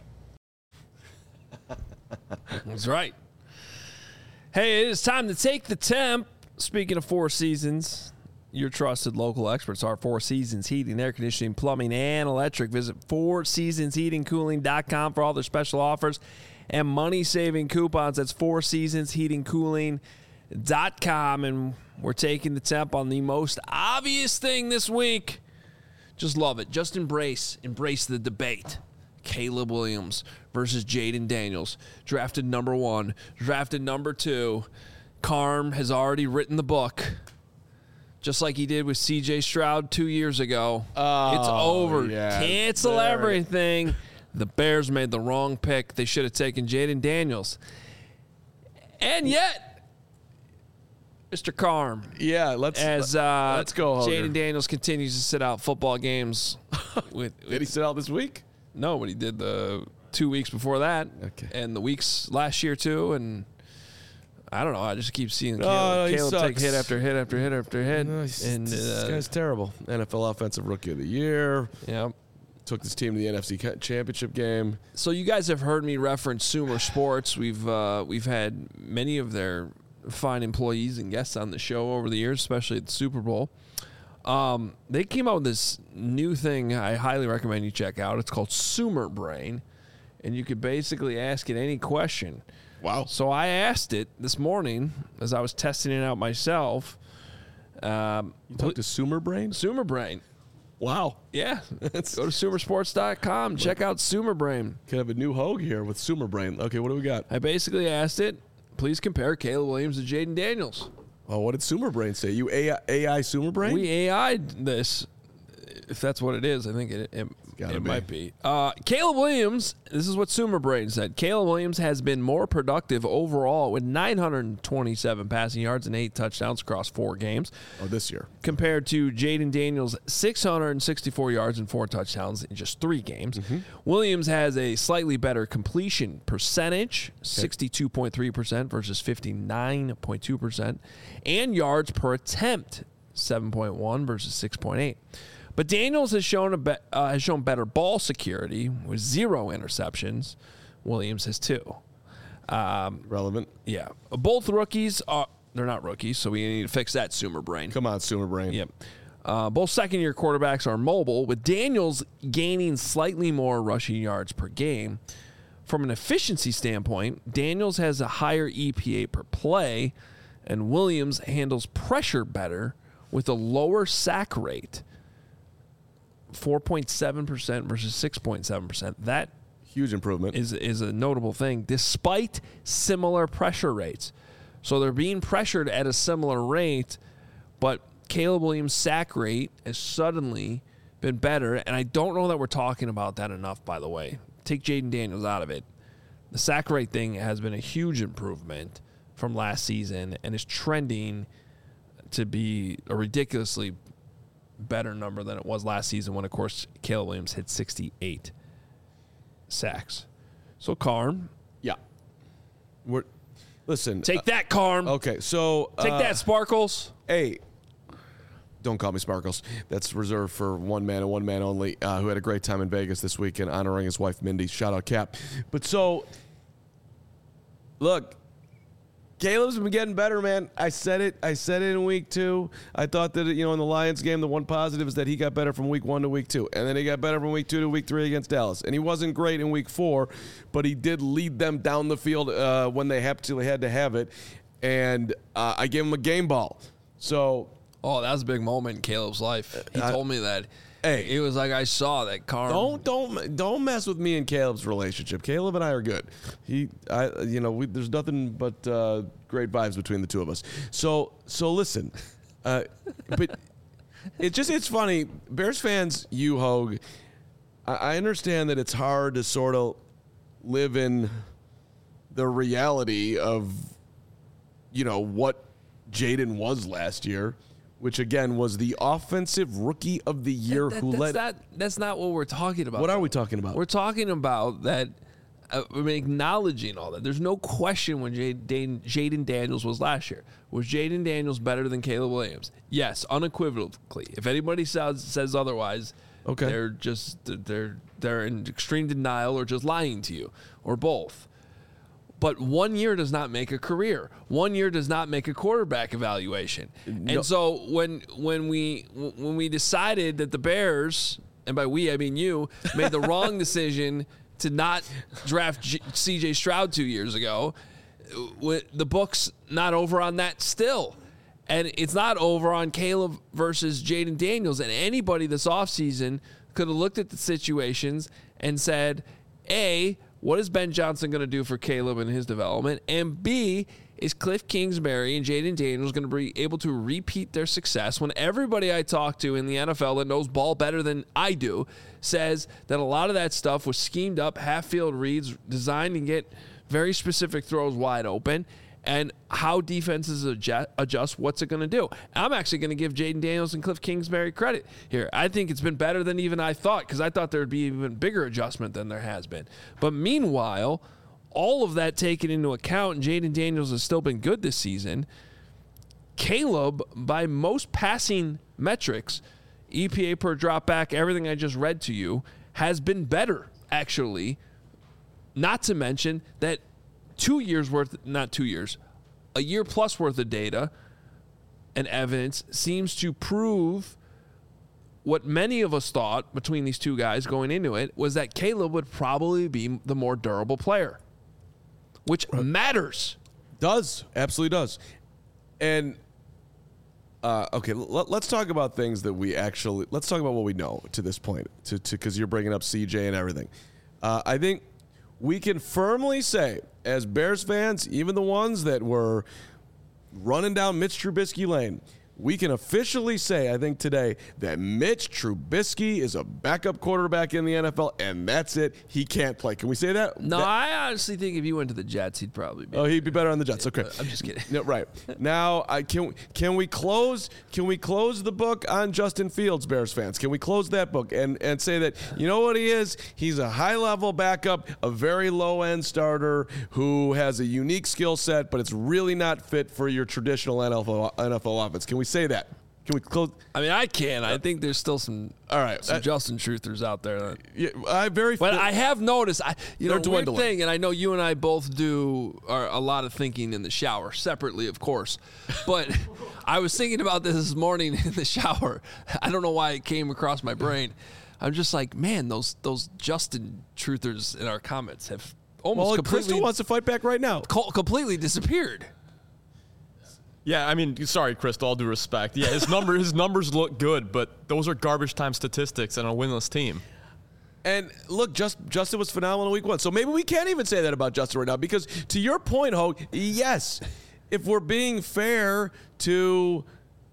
That's right. Hey, it is time to take the temp. Speaking of Four Seasons, your trusted local experts are Four Seasons Heating, Air Conditioning, Plumbing, and Electric. Visit four seasons heating cooling dot com for all their special offers and money-saving coupons. That's four seasons heating cooling dot com. And we're taking the temp on the most obvious thing this week. Just love it. Just embrace. Embrace the debate. Caleb Williams versus Jaden Daniels. Drafted number one. Drafted number two. Carm has already written the book. Just like he did with C J Stroud two years ago. Oh, it's over. yeah. Cancel There. everything. The Bears made the wrong pick. They should have taken Jaden Daniels. And yet, Mister Carm. Yeah, let's As uh, let's go, Hoger. Jaden Daniels continues to sit out football games. with, with Did he sit out this week? No, but he did the two weeks before that. Okay. And the weeks last year, too. And I don't know. I just keep seeing Caleb, no, he Caleb take sucks. hit after hit after hit after hit. No, he's- and this uh, guy's terrible. N F L Offensive Rookie of the Year. yeah. Took this team to the N F C Championship game. So you guys have heard me reference Sumer Sports. We've uh, we've had many of their fine employees and guests on the show over the years, especially at the Super Bowl. Um, they came out with this new thing I highly recommend you check out. It's called Sumer Brain, and you could basically ask it any question. Wow. So I asked it this morning as I was testing it out myself. Um, You talked to Sumer Brain? Sumer Brain. Wow. Yeah. Go to sumer sports dot com. Check out Sumer Brain. Could have a new Hogue here with Sumer Brain. Okay, what do we got? I basically asked it, please compare Caleb Williams to Jaden Daniels. Oh, what did Sumer Brain say? You A I, A I Sumer Brain? We A I'd this. if that's what it is, I think it it, Gotta it be. might be. Uh, Caleb Williams, this is what Sumer Brain said. Caleb Williams has been more productive overall with nine hundred twenty-seven passing yards and eight touchdowns across four games. Oh, this year. Compared to Jaden Daniels' six hundred sixty-four yards and four touchdowns in just three games. Mm-hmm. Williams has a slightly better completion percentage, sixty-two point three percent versus fifty-nine point two percent, and yards per attempt, seven point one versus six point eight. But Daniels has shown a be- uh, has shown better ball security with zero interceptions. Williams has two. Um, Relevant. yeah, both rookies are they're not rookies, so we need to fix that, Sumer Brain. Come on, Sumer Brain. Yep. Uh, both second-year quarterbacks are mobile, with Daniels gaining slightly more rushing yards per game. From an efficiency standpoint, Daniels has a higher E P A per play, and Williams handles pressure better with a lower sack rate, four point seven percent versus six point seven percent. That Huge improvement. is is a notable thing, despite similar pressure rates. So they're being pressured at a similar rate, but Caleb Williams' sack rate has suddenly been better, and I don't know that we're talking about that enough, by the way. Take Jaden Daniels out of it. The sack rate thing has been a huge improvement from last season and is trending to be a ridiculously better number than it was last season when, of course, Caleb Williams hit sixty-eight sacks. So, Carm. Yeah. We're listen. Take uh, that, Carm. Okay, so Take uh, that, Sparkles. Hey, don't call me Sparkles. That's reserved for one man and one man only, uh, who had a great time in Vegas this weekend honoring his wife, Mindy. Shout out, Cap. But so, look, Caleb's been getting better, man. I said it. I said it in week two. I thought that, you know, in the Lions game, the one positive is that he got better from week one to week two. And then he got better from week two to week three against Dallas. And he wasn't great in week four, but he did lead them down the field uh, when they absolutely had to have it. And uh, I gave him a game ball. So, Oh, that was a big moment in Caleb's life. He I- told me that. Hey. It was like I saw that Carm. Don't don't don't mess with me and Caleb's relationship. Caleb and I are good. He, I, you know, we, there's nothing but uh, great vibes between the two of us. So so listen, uh, but it just it's funny. Bears fans, you Hogue, I, I understand that it's hard to sort of live in the reality of, you know, what Jaden was last year. Which again was the offensive rookie of the year That- who that's led. Not, that's not what we're talking about. What are though. we talking about? We're talking about that. Uh, I mean, acknowledging all that. There's no question when Jaden Jaden Daniels was last year. Was Jaden Daniels better than Caleb Williams? Yes, unequivocally. If anybody says says otherwise, Okay. they're just they're they're in extreme denial or just lying to you, or both. But one year does not make a career. One year does not make a quarterback evaluation. No. And so when when we when we decided that the Bears, and by we I mean you, made the wrong decision to not draft G- C J Stroud two years ago, w- the book's not over on that still. And it's not over on Caleb versus Jaden Daniels. And anybody this offseason could have looked at the situations and said, A, what is Ben Johnson going to do for Caleb and his development? And B, is Cliff Kingsbury and Jaden Daniels going to be able to repeat their success when everybody I talk to in the N F L that knows ball better than I do says that a lot of that stuff was schemed up, half-field reads designed to get very specific throws wide open, and how defenses adjust, adjust what's it going to do. I'm actually going to give Jaden Daniels and Cliff Kingsbury credit here. I think it's been better than even I thought, because I thought there would be even bigger adjustment than there has been. But meanwhile, all of that taken into account, and Jaden Daniels has still been good this season, Caleb, by most passing metrics, E P A per drop back, everything I just read to you, has been better, actually. Not to mention that two years worth, not two years, a year plus worth of data and evidence seems to prove what many of us thought between these two guys going into it was that Caleb would probably be the more durable player, which matters. Does. Absolutely does. And, uh, okay, l- let's talk about things that we actually, let's talk about what we know to this point, to because you're bringing up C J and everything. Uh, I think we can firmly say, as Bears fans, even the ones that were running down Mitch Trubisky lane, we can officially say, I think today, that Mitch Trubisky is a backup quarterback in the N F L, and that's it. He can't play. Can we say that? No, that, I honestly think if you went to the Jets, he'd probably be. Oh, he'd be better on the Jets. Okay, I'm just kidding. No, right now, I can can we close can we close the book on Justin Fields, Bears fans? Can we close that book and and say that you know what he is? He's a high level backup, a very low end starter who has a unique skill set, but it's really not fit for your traditional N F L N F L offense. Can we say that? Can we close? I mean, I can. I think there's still some all right some uh, Justin truthers out there. That, yeah, I very. But I have noticed, I you know, They're weird dwindling. thing, and I know you and I both do are a lot of thinking in the shower, separately, of course. But I was thinking about this this morning in the shower. I don't know why it came across my brain. I'm just like, man, those those Justin truthers in our comments have almost well, completely Crystal wants to fight back right now. co- completely disappeared. Yeah, I mean, sorry, Chris, all due respect. Yeah, his number, his numbers look good, but those are garbage time statistics and a winless team. And look, just Justin was phenomenal week one. So maybe we can't even say that about Justin right now because to your point, Hogue, yes, if we're being fair to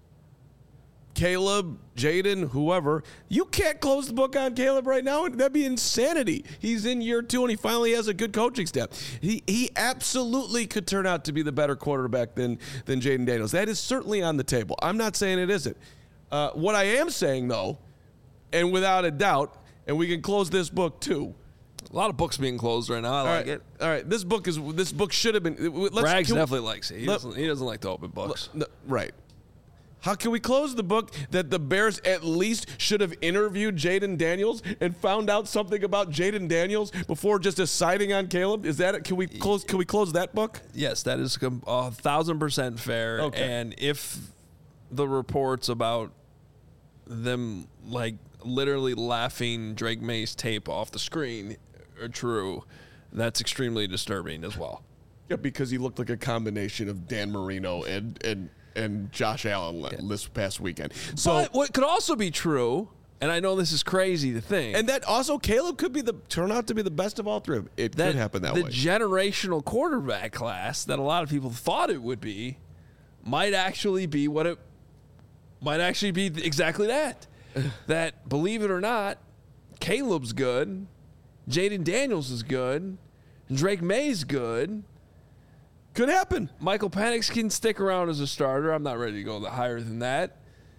Caleb, Jaden, whoever, you can't close the book on Caleb right now. That'd be insanity. He's in year two and he finally has a good coaching staff. He he absolutely could turn out to be the better quarterback than than Jaden Daniels. That is certainly on the table. I'm not saying it isn't. Uh, what I am saying though, and without a doubt, and we can close this book too. A lot of books being closed right now. I All like right, it. all right. This book is this book should have been. Let's, Braggs can we- definitely likes it. He, let- doesn't, he doesn't like to open books. No, right. How can we close the book that the Bears at least should have interviewed Jaden Daniels and found out something about Jaden Daniels before just deciding on Caleb? Is that it? Can we close? Can we close that book? Yes, that is com- a thousand percent fair. Okay. And if the reports about them like literally laughing Drake May's tape off the screen are true, that's extremely disturbing as well. Yeah, because he looked like a combination of Dan Marino and and and Josh Allen yeah. this past weekend. So but what could also be true, and I know this is crazy to think, and that also Caleb could be the turn out to be the best of all three. It that could happen that the way. The generational quarterback class that a lot of people thought it would be might actually be what it might actually be exactly that. That, believe it or not, Caleb's good, Jaden Daniels is good, Drake May's good. Could happen. Michael Penix can stick around as a starter. I'm not ready to go higher than that.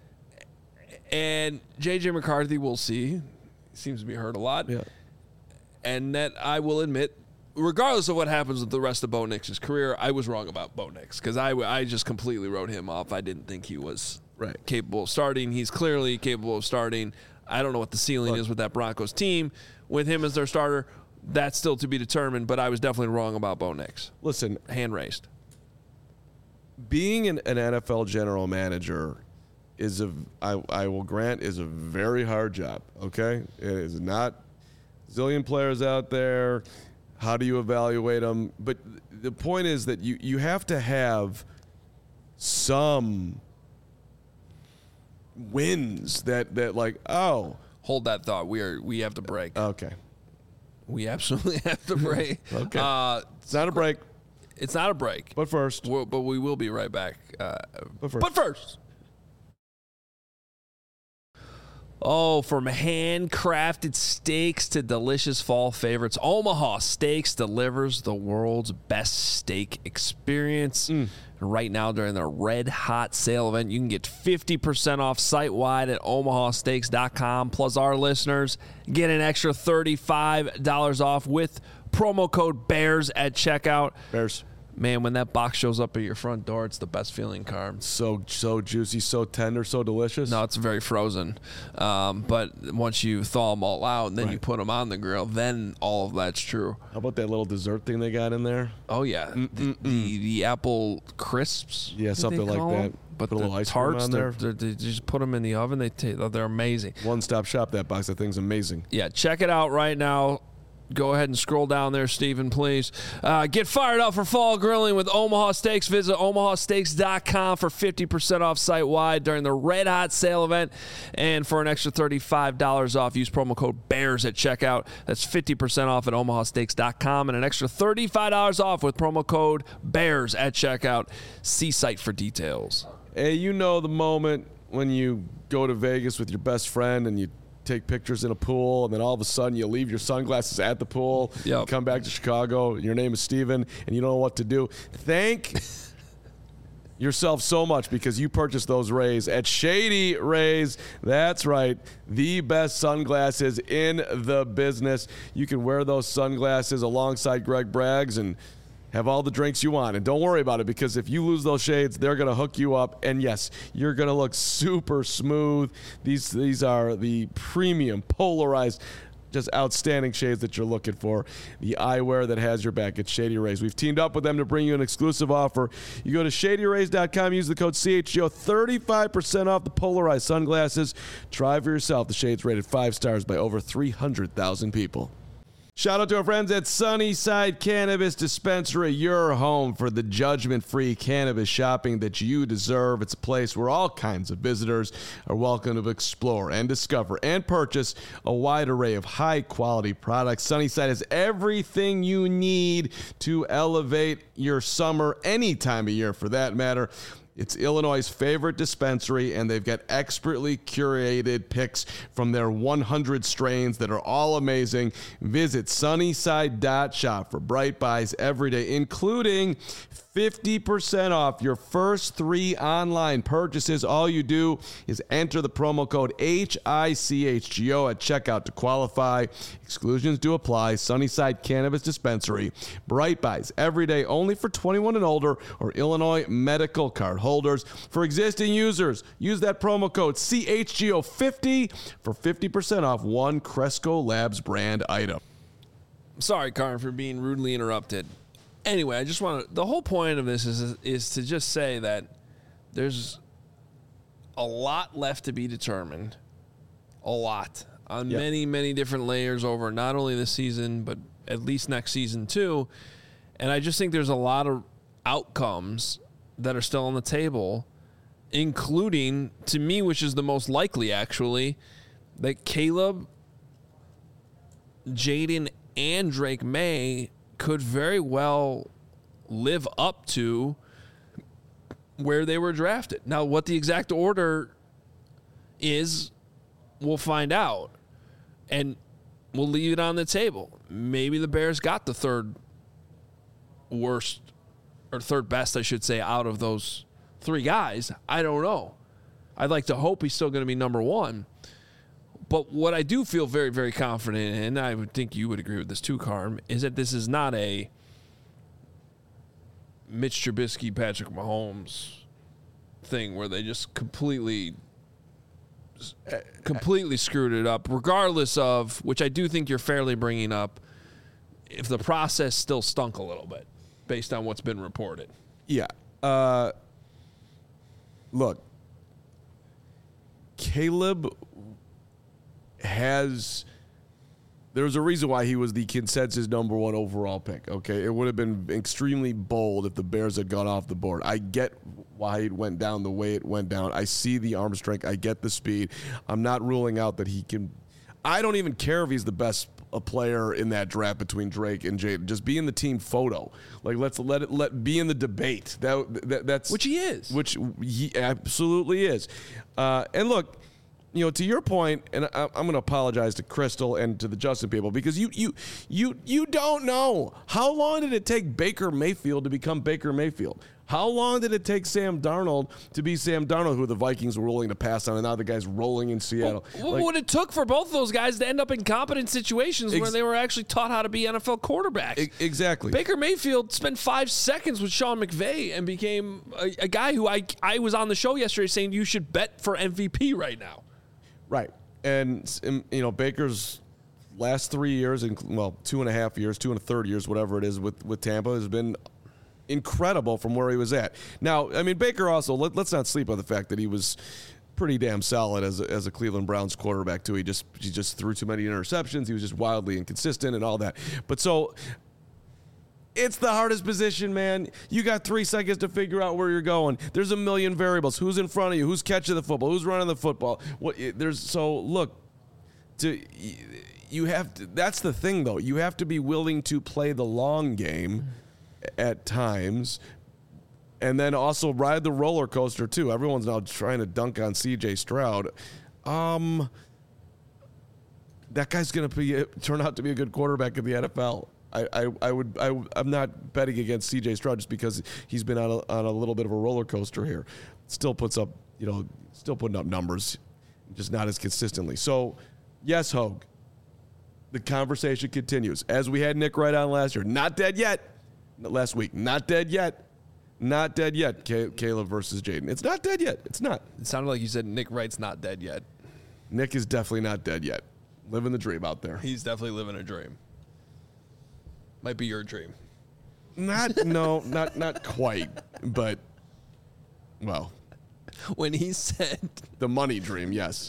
And J J McCarthy, we'll see. He seems to be hurt a lot. Yeah. And that I will admit, regardless of what happens with the rest of Bo Nix's career, I was wrong about Bo Nix because I, I just completely wrote him off. I didn't think he was right. capable of starting. He's clearly capable of starting. I don't know what the ceiling Look. is with that Broncos team. With him as their starter, that's still to be determined, but I was definitely wrong about Bo Nix. Listen. Hand raised. Being an, an N F L general manager is a, I, I will grant, is a very hard job, okay? It is not a zillion players out there. How do you evaluate them? But the point is that you, you have to have some wins that, that like, oh. Hold that thought. We are we have to break. Okay. We absolutely have to break. Okay. Uh, it's not a break. It's not a break. But first. We'll, but we will be right back. Uh, but first. But first. Oh, from handcrafted steaks to delicious fall favorites, Omaha Steaks delivers the world's best steak experience. Mm. Right now, during the Red Hot Sale event, you can get fifty percent off site-wide at omaha steaks dot com. Plus, our listeners get an extra thirty-five dollars off with promo code BEARS at checkout. Bears. Man, when that box shows up at your front door, it's the best feeling, Carm. So so juicy, so tender, so delicious. No, it's very frozen. Um, but once you thaw them all out and then right. you put them on the grill, then all of that's true. How about that little dessert thing they got in there? Oh, yeah. The, the the apple crisps. Yeah, something like that. But put a the little ice tarts, cream on there. They're, they're, they just put them in the oven. They t- They're amazing. One-stop shop, that box. That thing's amazing. Yeah, check it out right now. Go ahead and scroll down there, Stephen, please. Uh, get fired up for fall grilling with Omaha Steaks. Visit omaha steaks dot com for fifty percent off site-wide during the Red Hot Sale event. And for an extra thirty-five dollars off, use promo code BEARS at checkout. That's fifty percent off at omaha steaks dot com and an extra thirty-five dollars off with promo code BEARS at checkout. See site for details. Hey, you know the moment when you go to Vegas with your best friend and you take pictures in a pool, and then all of a sudden you leave your sunglasses at the pool, yep. you come back to Chicago, your name is Steven, and you don't know what to do. Thank yourself so much because you purchased those Rays at Shady Rays. That's right, the best sunglasses in the business. You can wear those sunglasses alongside Greg Braggs and have all the drinks you want. And don't worry about it, because if you lose those shades, they're going to hook you up. And yes, you're going to look super smooth. These these are the premium polarized, just outstanding shades that you're looking for. The eyewear that has your back at Shady Rays. We've teamed up with them to bring you an exclusive offer. You go to shady rays dot com, use the code C H G O, thirty-five percent off the polarized sunglasses. Try for yourself. The shades rated five stars by over three hundred thousand people. Shout out to our friends at Sunnyside Cannabis Dispensary, your home for the judgment-free cannabis shopping that you deserve. It's a place where all kinds of visitors are welcome to explore and discover and purchase a wide array of high-quality products. Sunnyside has everything you need to elevate your summer, any time of year for that matter. It's Illinois' favorite dispensary, and they've got expertly curated picks from their one hundred strains that are all amazing. Visit sunnyside dot shop for bright buys every day, including fifty percent off your first three online purchases. All you do is enter the promo code H I C H G O at checkout to qualify. Exclusions do apply. Sunnyside Cannabis Dispensary. Bright buys every day, only for twenty-one and older or Illinois medical card holders. For existing users, use that promo code C H G O fifty for fifty percent off one Cresco Labs brand item. Sorry, Karin, for being rudely interrupted. Anyway, I just want to, the whole point of this is is to just say that there's a lot left to be determined. A lot. On yep. many, many different layers over not only this season, but at least next season too. And I just think there's a lot of outcomes that are still on the table, including, to me, which is the most likely actually, that Caleb, Jaden, and Drake May could very well live up to where they were drafted. Now, what the exact order is, we'll find out. And we'll leave it on the table. Maybe the Bears got the third worst, or third best, I should say, out of those three guys. I don't know. I'd like to hope he's still going to be number one. But what I do feel very, very confident in, and I would think you would agree with this too, Carm, is that this is not a Mitch Trubisky, Patrick Mahomes thing where they just completely, completely screwed it up, regardless of, which I do think you're fairly bringing up, if the process still stunk a little bit based on what's been reported. Yeah. Uh, look, Caleb has, there's a reason why he was the consensus number one overall pick, okay? It would have been extremely bold if the Bears had gone off the board. I get why it went down the way it went down. I see the arm strength. I get the speed. I'm not ruling out that he can, I don't even care if he's the best a player in that draft between Drake and Jaden. Just be in the team photo. Like, let's let it let be in the debate. That, that that's which he is. Which he absolutely is. Uh, and look, you know, to your point, and I, I'm going to apologize to Crystal and to the Justin people, because you you you you don't know how long did it take Baker Mayfield to become Baker Mayfield. How long did it take Sam Darnold to be Sam Darnold, who the Vikings were willing to pass on, and now the guy's rolling in Seattle? Well, like, what it took for both of those guys to end up in competent situations ex- where they were actually taught how to be N F L quarterbacks. E- exactly. Baker Mayfield spent five seconds with Sean McVay and became a, a guy who I I was on the show yesterday saying you should bet for M V P right now. Right. And, and you know, Baker's last three years, well, two and a half years, two and a third years, whatever it is with, with Tampa, has been incredible from where he was at. Now, I mean, Baker also, let, let's not sleep on the fact that he was pretty damn solid as a, as a Cleveland Browns quarterback, too. He just he just threw too many interceptions. He was just wildly inconsistent and all that. But so it's the hardest position, man. You got three seconds to figure out where you're going. There's a million variables. Who's in front of you? Who's catching the football? Who's running the football? What? There's so look. To you have to. That's the thing, though. You have to be willing to play the long game at times, and then also ride the roller coaster too. Everyone's now trying to dunk on C J Stroud. Um, that guy's going to be turn out to be a good quarterback in the N F L. I, I, I would I, I'm not betting against C J Stroud just because he's been on a, on a little bit of a roller coaster here. Still puts up, you know, still putting up numbers, just not as consistently. So, yes, Hogue, the conversation continues. As we had Nick Wright on last year, not dead yet. Last week, not dead yet. Not dead yet, Caleb versus Jaden. It's not dead yet. It's not. It sounded like you said Nick Wright's not dead yet. Nick is definitely not dead yet. Living the dream out there. He's definitely living a dream. Might be your dream. Not, no, not not quite, but, well. When he said... The money dream, yes.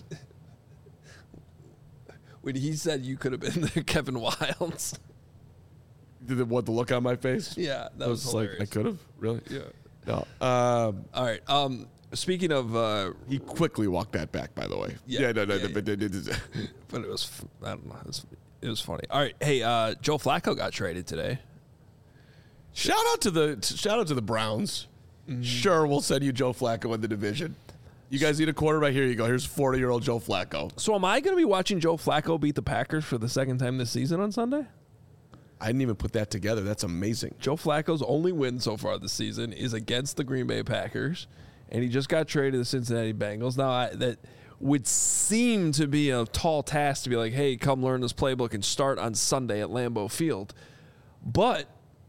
When he said you could have been the Kevin Wildes. Did it, what, the look on my face? Yeah, that I was, was hilarious. like, I could have? Really? Yeah. No. Um, All right. Um, speaking of... Uh, he quickly walked that back, by the way. Yeah, no, no, yeah, no, but, yeah. But it was... I don't know. It was, it was funny. All right. Hey, uh, Joe Flacco got traded today. Shout out to the shout out to the Browns. Mm-hmm. Sure, we'll send you Joe Flacco in the division. You guys need a quarterback? Here you go. Here's forty-year-old Joe Flacco. So am I going to be watching Joe Flacco beat the Packers for the second time this season on Sunday? I didn't even put that together. That's amazing. Joe Flacco's only win so far this season is against the Green Bay Packers, and he just got traded to the Cincinnati Bengals. Now, I, that would seem to be a tall task to be like, hey, come learn this playbook and start on Sunday at Lambeau Field. But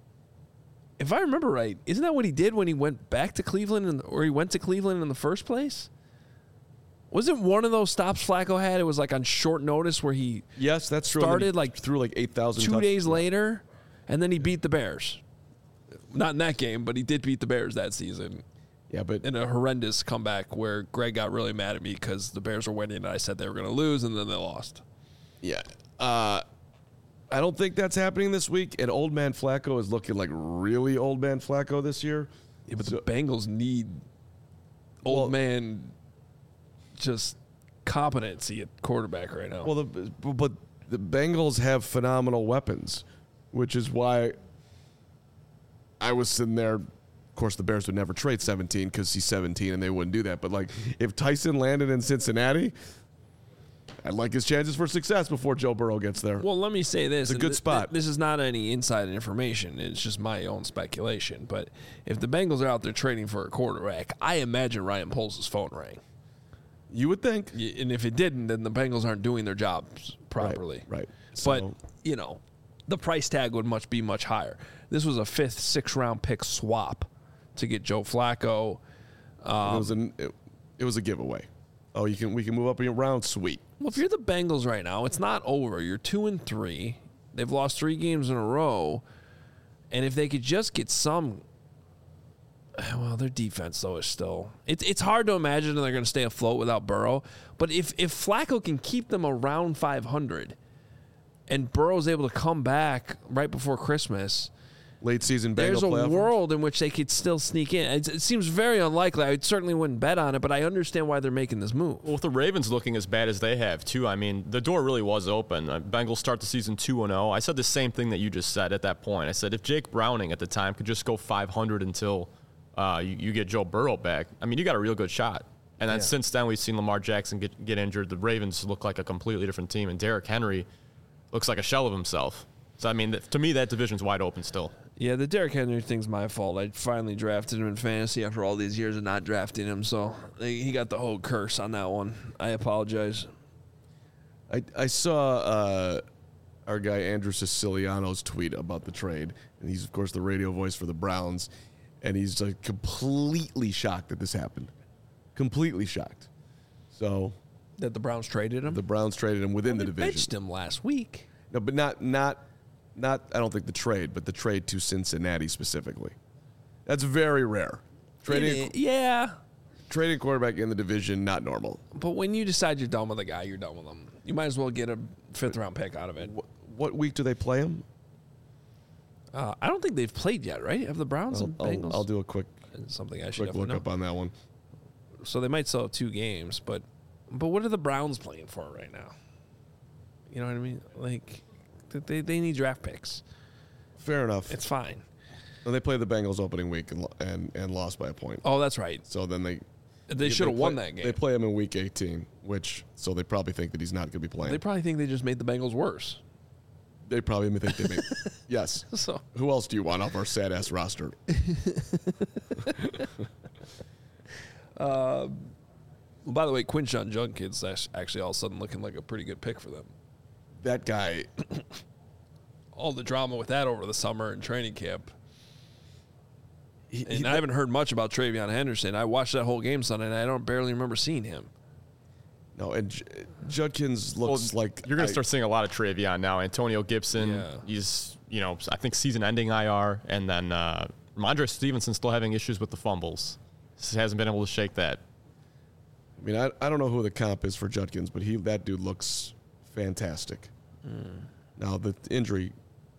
if I remember right, isn't that what he did when he went back to Cleveland, in, or he went to Cleveland in the first place? Wasn't one of those stops Flacco had? It was like on short notice where he yes, that's true. started like threw like eight thousand two touch- days later, and then he beat the Bears. Not in that game, but he did beat the Bears that season. Yeah, but in a horrendous comeback where Greg got really mad at me because the Bears were winning and I said they were going to lose, and then they lost. Yeah. Uh, I don't think that's happening this week, and old man Flacco is looking like really old man Flacco this year. Yeah, but so, the Bengals need old well, man just competency at quarterback right now. Well, the, but the Bengals have phenomenal weapons, which is why I was sitting there. Of course, the Bears would never trade seventeen because he's seventeen, and they wouldn't do that. But, like, if Tyson landed in Cincinnati, I'd like his chances for success before Joe Burrow gets there. Well, let me say this. It's a good th- spot. Th- this is not any inside information. It's just my own speculation. But if the Bengals are out there trading for a quarterback, I imagine Ryan Poles' phone rang. You would think. And if it didn't, then the Bengals aren't doing their jobs properly. Right, right. But, So, you know, the price tag would much be much higher. This was a fifth, sixth round pick swap to get Joe Flacco. Um, it was an it, it was a giveaway. Oh, you can we can move up around. Sweet. Well, if you're the Bengals right now, it's not over. You're two and three. They've lost three games in a row, and if they could just get some, well, their defense though is still. It's it's hard to imagine they're going to stay afloat without Burrow. But if if Flacco can keep them around five hundred, and Burrow's able to come back right before Christmas. Late season Bengal There's a playoff world in which they could still sneak in. It, it seems very unlikely. I certainly wouldn't bet on it, but I understand why they're making this move. Well, with the Ravens looking as bad as they have, too, I mean, the door really was open. Uh, Bengals start the season two and oh. I said the same thing that you just said at that point. I said if Jake Browning at the time could just go five hundred until uh, you, you get Joe Burrow back, I mean, you got a real good shot. And then yeah. since then, we've seen Lamar Jackson get, get injured. The Ravens look like a completely different team, and Derrick Henry looks like a shell of himself. So, I mean, th- to me, that division's wide open still. Yeah, the Derrick Henry thing's my fault. I finally drafted him in fantasy after all these years of not drafting him, so he got the whole curse on that one. I apologize. I, I saw uh, our guy Andrew Siciliano's tweet about the trade, and he's, of course, the radio voice for the Browns, and he's like completely shocked that this happened. Completely shocked. So that the Browns traded him? The Browns traded him within well, the they division. Benched him last week. No, but not not not. I don't think the trade, but the trade to Cincinnati specifically. That's very rare. Trading, yeah. Trading quarterback in the division, not normal. But when you decide you're done with a guy, you're done with him. You might as well get a fifth round pick out of it. What, what week do they play him? Uh, I don't think they've played yet, right? Have the Browns I'll, and I'll, Bengals? I'll do a quick something I should quick look know. up on that one. So they might still have two games, but but what are the Browns playing for right now? You know what I mean? Like they they need draft picks. Fair enough. It's fine. Well, they played the Bengals opening week and, and and lost by a point. Oh, that's right. So then they They should have won play, that game. They play him in week eighteen, which so they probably think that he's not going to be playing. They probably think they just made the Bengals worse. They probably think they made. Yes. So who else do you want off our sad ass roster? uh, well, by the way, Quinshon Judkins is actually all of a sudden looking like a pretty good pick for them. That guy. All the drama with that over the summer and training camp. He, and he, I haven't heard much about Travion Henderson. I watched that whole game Sunday, and I don't barely remember seeing him. No, and J- Judkins looks well, like you're going to I, start seeing a lot of Travion now. Antonio Gibson, Yeah. he's you know I think season-ending I R, and then uh, Ramondre Stevenson still having issues with the fumbles. Just hasn't been able to shake that. I mean, I, I don't know who the comp is for Judkins, but he that dude looks fantastic. Mm. Now the injury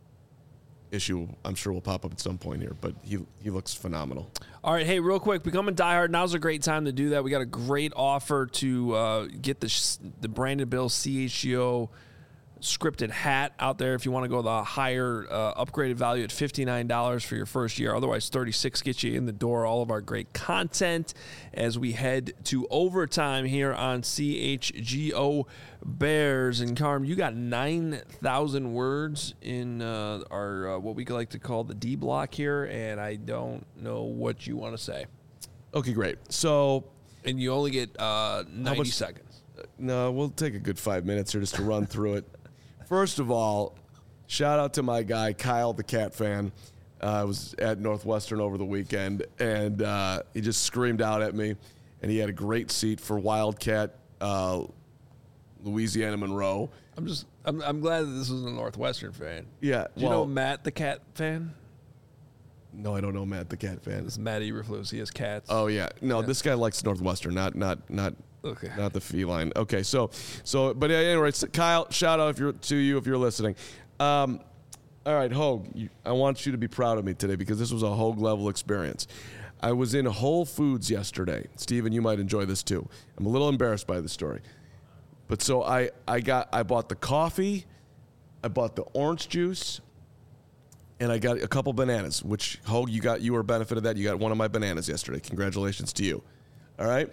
issue, I'm sure, will pop up at some point here, but he he looks phenomenal. All right, hey, real quick, become a diehard. Now's a great time to do that. We got a great offer to uh, get the sh- the Brandon Bill C H G O scripted hat out there if you want to go the higher uh, upgraded value at fifty-nine dollars for your first year. Otherwise, thirty-six gets you in the door. All of our great content as we head to overtime here on C H G O Bears. And Carm, you got nine thousand words in uh, our uh, what we like to call the D block here, and I don't know what you want to say. Okay, great. So, and you only get uh, ninety much, seconds. Uh, no, we'll take a good five minutes here just to run through it. First of all, shout out to my guy, Kyle, the Cat fan. Uh, I was at Northwestern over the weekend, and uh, he just screamed out at me, and he had a great seat for Wildcat, uh, Louisiana Monroe. I'm just, I'm, I'm glad that this was a Northwestern fan. Yeah. Do you well, know Matt, the Cat fan? No, I don't know Matt, the Cat fan. This is Matt Eberflus. He has cats. Oh yeah, no, Yeah. this guy likes Northwestern, not not not. Okay. Not the feline. Okay, so, so, but anyway, so Kyle, shout out if you're to you if you're listening. Um, all right, Hogue, you, I want you to be proud of me today because this was a Hogue level experience. I was in Whole Foods yesterday. Steven, you might enjoy this too. I'm a little embarrassed by the story, but so I, I got, I bought the coffee, I bought the orange juice, and I got a couple bananas. Which Hogue, you got, you were a benefit of that. You got one of my bananas yesterday. Congratulations to you. All right.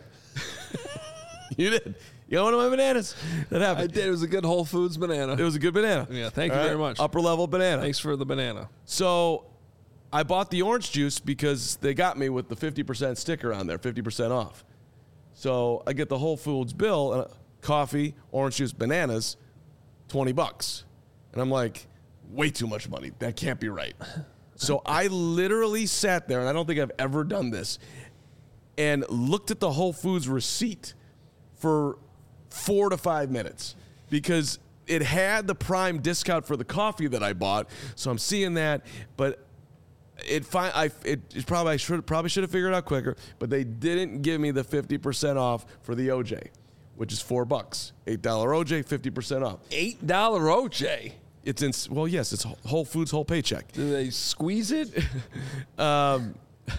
You did. You got one of my bananas. That happened. I did. It was a good Whole Foods banana. It was a good banana. Yeah, thank All you right? very much. Upper level banana. Thanks for the banana. So I bought the orange juice because they got me with the fifty percent sticker on there, fifty percent off. So I get the Whole Foods bill, and coffee, orange juice, bananas, twenty bucks. And I'm like, way too much money. That can't be right. So I literally sat there, and I don't think I've ever done this, and looked at the Whole Foods receipt for four to five minutes because it had the prime discount for the coffee that I bought. So I'm seeing that, but it fi- I it, it probably I should probably should have figured it out quicker. But they didn't give me the fifty percent off for the O J, which is four bucks, eight dollar O J, fifty percent off. Eight dollar O J. It's in well, yes, it's Whole Foods whole paycheck. Do they squeeze it? um,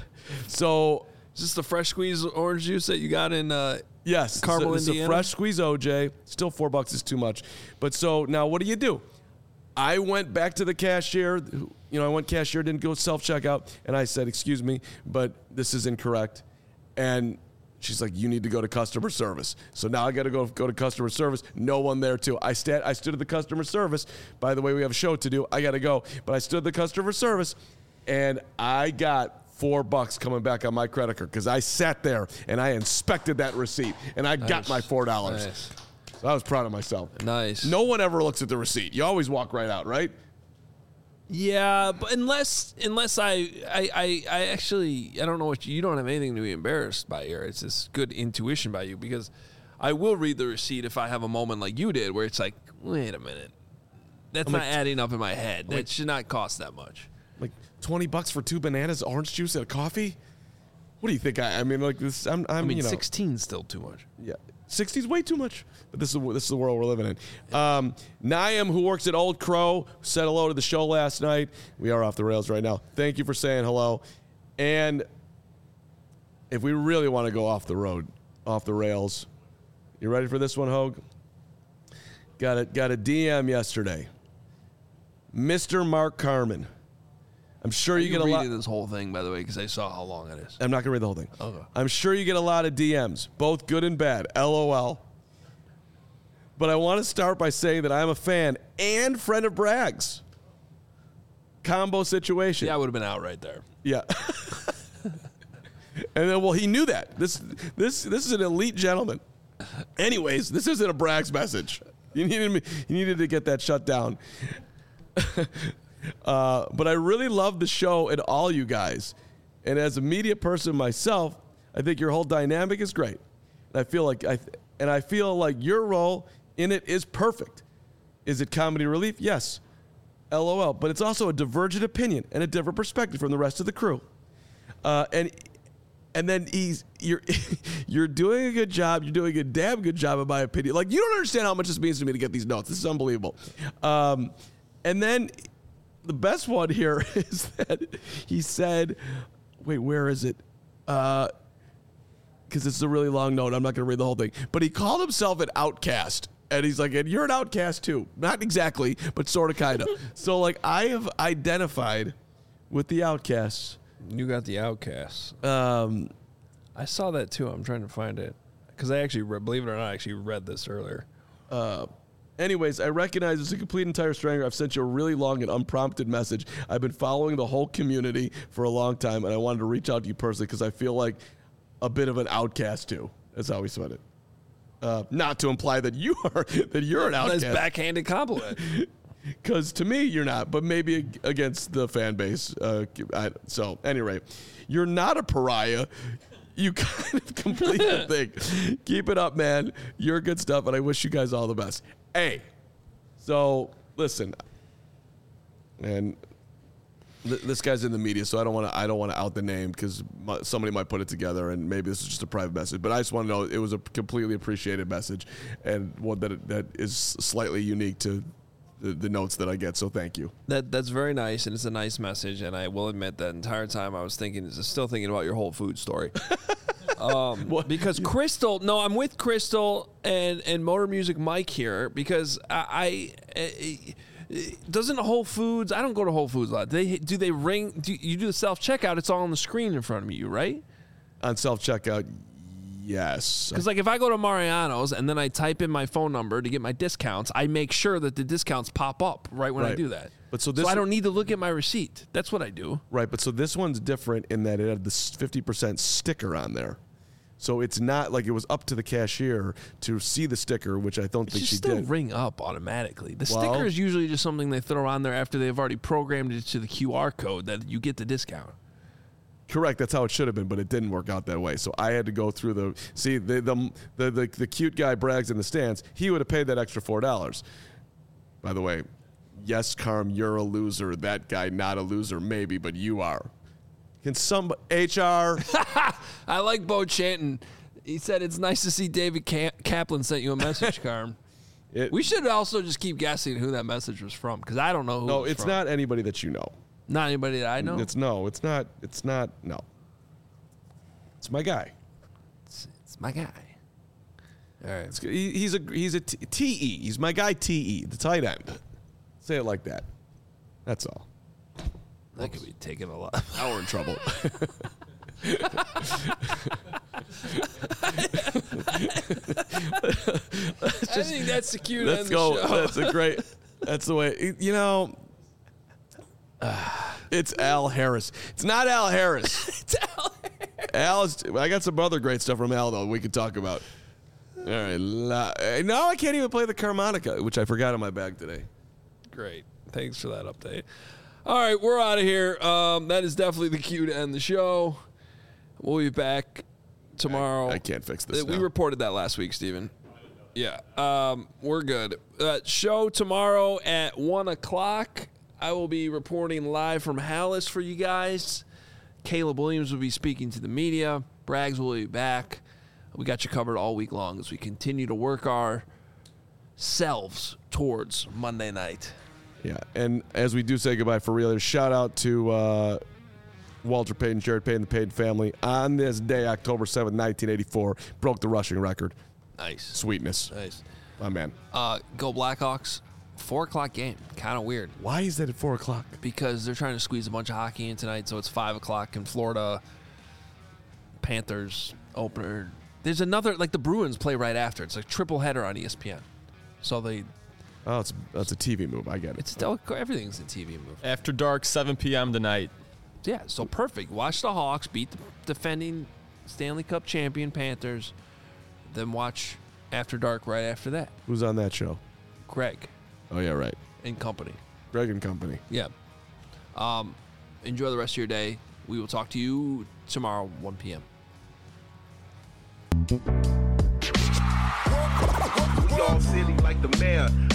so is this the fresh squeeze orange juice that you got in? Uh, Yes, Carmel, it's a, it's Indiana? a fresh squeeze O J. Still four bucks is too much. But so now what do you do? I went back to the cashier. You know, I went cashier, didn't go self-checkout. And I said, excuse me, but this is incorrect. And she's like, you need to go to customer service. So now I got to go go to customer service. No one there too. I, stand, I stood at the customer service. By the way, we have a show to do. I got to go. But I stood at the customer service, and I got four bucks coming back on my credit card because I sat there and I inspected that receipt and I Nice. got my four dollars. Nice. So I was proud of myself. Nice. No one ever looks at the receipt. You always walk right out, right? Yeah, but unless unless I I, I I actually I don't know what you, you don't have anything to be embarrassed by here. It's this good intuition by you because I will read the receipt if I have a moment like you did where it's like, wait a minute, that's I'm not like- adding up in my head. That like- should not cost that much. Like twenty bucks for two bananas, orange juice, and a coffee. What do you think? I, I mean, like this. I'm. I'm I mean, you know, sixteen's still too much. Yeah, sixty's way too much. But this is this is the world we're living in. Um, Naim, who works at Old Crow, said hello to the show last night. We are off the rails right now. Thank you for saying hello. And if we really want to go off the road, off the rails, you ready for this one, Hogue? Got a got a D M yesterday. Mister Mark Carman. I'm sure Are you you get a lot. reading this whole thing, by the way, because I saw how long it is. I'm not going to read the whole thing. Okay. I'm sure you get a lot of D Ms, both good and bad. LOL. But I want to start by saying that I'm a fan and friend of Bragg's. Combo situation. Yeah, I would have been out right there. Yeah. And then, well, he knew that. This, this, this is an elite gentleman. Anyways, this isn't a Bragg's message. You needed me. You needed to get that shut down. uh, but I really love the show and all you guys. And as a media person myself, I think your whole dynamic is great. And I feel like I, and I feel like your role in it is perfect. Is it comedy relief? Yes. LOL. But it's also a divergent opinion and a different perspective from the rest of the crew. Uh, and. And then he's you're you're doing a good job. You're doing a damn good job, in my opinion. Like, you don't understand how much this means to me to get these notes. This is unbelievable. Um, and then the best one here is that he said, "Wait, where is it?" Because uh, it's a really long note. I'm not going to read the whole thing. But he called himself an outcast. And he's like, and you're an outcast too. Not exactly, but sort of, kind of. So, like, I have identified with the outcasts. You got the Outcasts. Um, I saw that too. I'm trying to find it because I actually, read, believe it or not, I actually read this earlier. Uh, anyways, I recognize it's a complete entire stranger. I've sent you a really long and unprompted message. I've been following the whole community for a long time, and I wanted to reach out to you personally because I feel like a bit of an outcast too. That's how we said it. Uh, not to imply that you are that you're an outcast. Nice backhanded compliment. Because to me, you're not, but maybe against the fan base. Uh, I, so, anyway, you're not a pariah. You kind of complete the thing. Keep it up, man. You're good stuff, and I wish you guys all the best. Hey, so listen, and th- this guy's in the media, so I don't want to. I don't want to out the name because somebody might put it together, and maybe this is just a private message. But I just want to know it was a completely appreciated message, and one that that is slightly unique to. The, the notes that I get, so thank you. That that's very nice, and it's a nice message. And I will admit that entire time I was thinking, still thinking about your Whole Foods story. um, because Crystal, no, I'm with Crystal and and Motor Music Mike here because I, I, I doesn't Whole Foods. I don't go to Whole Foods a lot. They do they ring? Do you do the self checkout? It's all on the screen in front of you, right? On self checkout. Yes. Because, like, if I go to Mariano's and then I type in my phone number to get my discounts, I make sure that the discounts pop up right when right. I do that. But so, this so I don't need to look at my receipt. That's what I do. Right, but so this one's different in that it had this fifty percent sticker on there. So it's not like it was up to the cashier to see the sticker, which I don't It think should she still did. ring up automatically. The Well- sticker is usually just something they throw on there after they've already programmed it to the Q R code that you get the discount. Correct, that's how it should have been, but it didn't work out that way. So I had to go through the see the the the, the, the cute guy Brags in the stands. He would have paid that extra four dollars. By the way, yes, Carm, you're a loser. That guy, not a loser, maybe, but you are. Can some H R? I like Bo Chanton. He said it's nice to see David Ka- Kaplan sent you a message, Carm. It, We should also just keep guessing who that message was from because I don't know who. no, it was it's from. not anybody that you know. Not anybody that I know. It's no, it's not. It's not. No, it's my guy. It's, it's my guy. All right. It's, he, he's a he's a t- TE. He's my guy T E, the tight end. Say it like that. That's all. That could be taking a lot. Now we're in trouble. I think that's the cue to Let's end go. the show. That's a great. That's the way. You know. It's Al Harris. It's not Al Harris. It's Al Harris. Al is, I got some other great stuff from Al though we could talk about. All right. La, now I can't even play the harmonica, which I forgot in my bag today. Great. Thanks for that update. All right, we're out of here. Um, that is definitely the cue to end the show. We'll be back tomorrow. I, I can't fix this. Uh, We now. reported that last week, Steven. Yeah, um, we're good. Uh, show tomorrow at one o'clock. I will be reporting live from Hallis for you guys. Caleb Williams will be speaking to the media. Braggs will be back. We got you covered all week long as we continue to work ourselves towards Monday night. Yeah, and as we do say goodbye for real, shout out to uh, Walter Payton, Jared Payton, the Payton family. On this day, October seventh, nineteen eighty-four, broke the rushing record. Nice. Sweetness. Nice. My man. Uh, go Blackhawks. Four o'clock game. Kind of weird. Why is that at four o'clock? Because they're trying to squeeze a bunch of hockey in tonight, so it's five o'clock in Florida. Panthers opener. There's another, like the Bruins play right after. It's like triple header on E S P N. So they. Oh, it's that's a T V move. I get it. It's still, everything's a T V move. After dark, seven p.m. tonight. Yeah, so perfect. Watch the Hawks beat the defending Stanley Cup champion Panthers. Then watch After Dark right after that. Who's on that show? Greg Oh yeah, right. and company. Greg and company. Yeah. Um, enjoy the rest of your day. We will talk to you tomorrow, one p.m. Y'all silly like the mayor.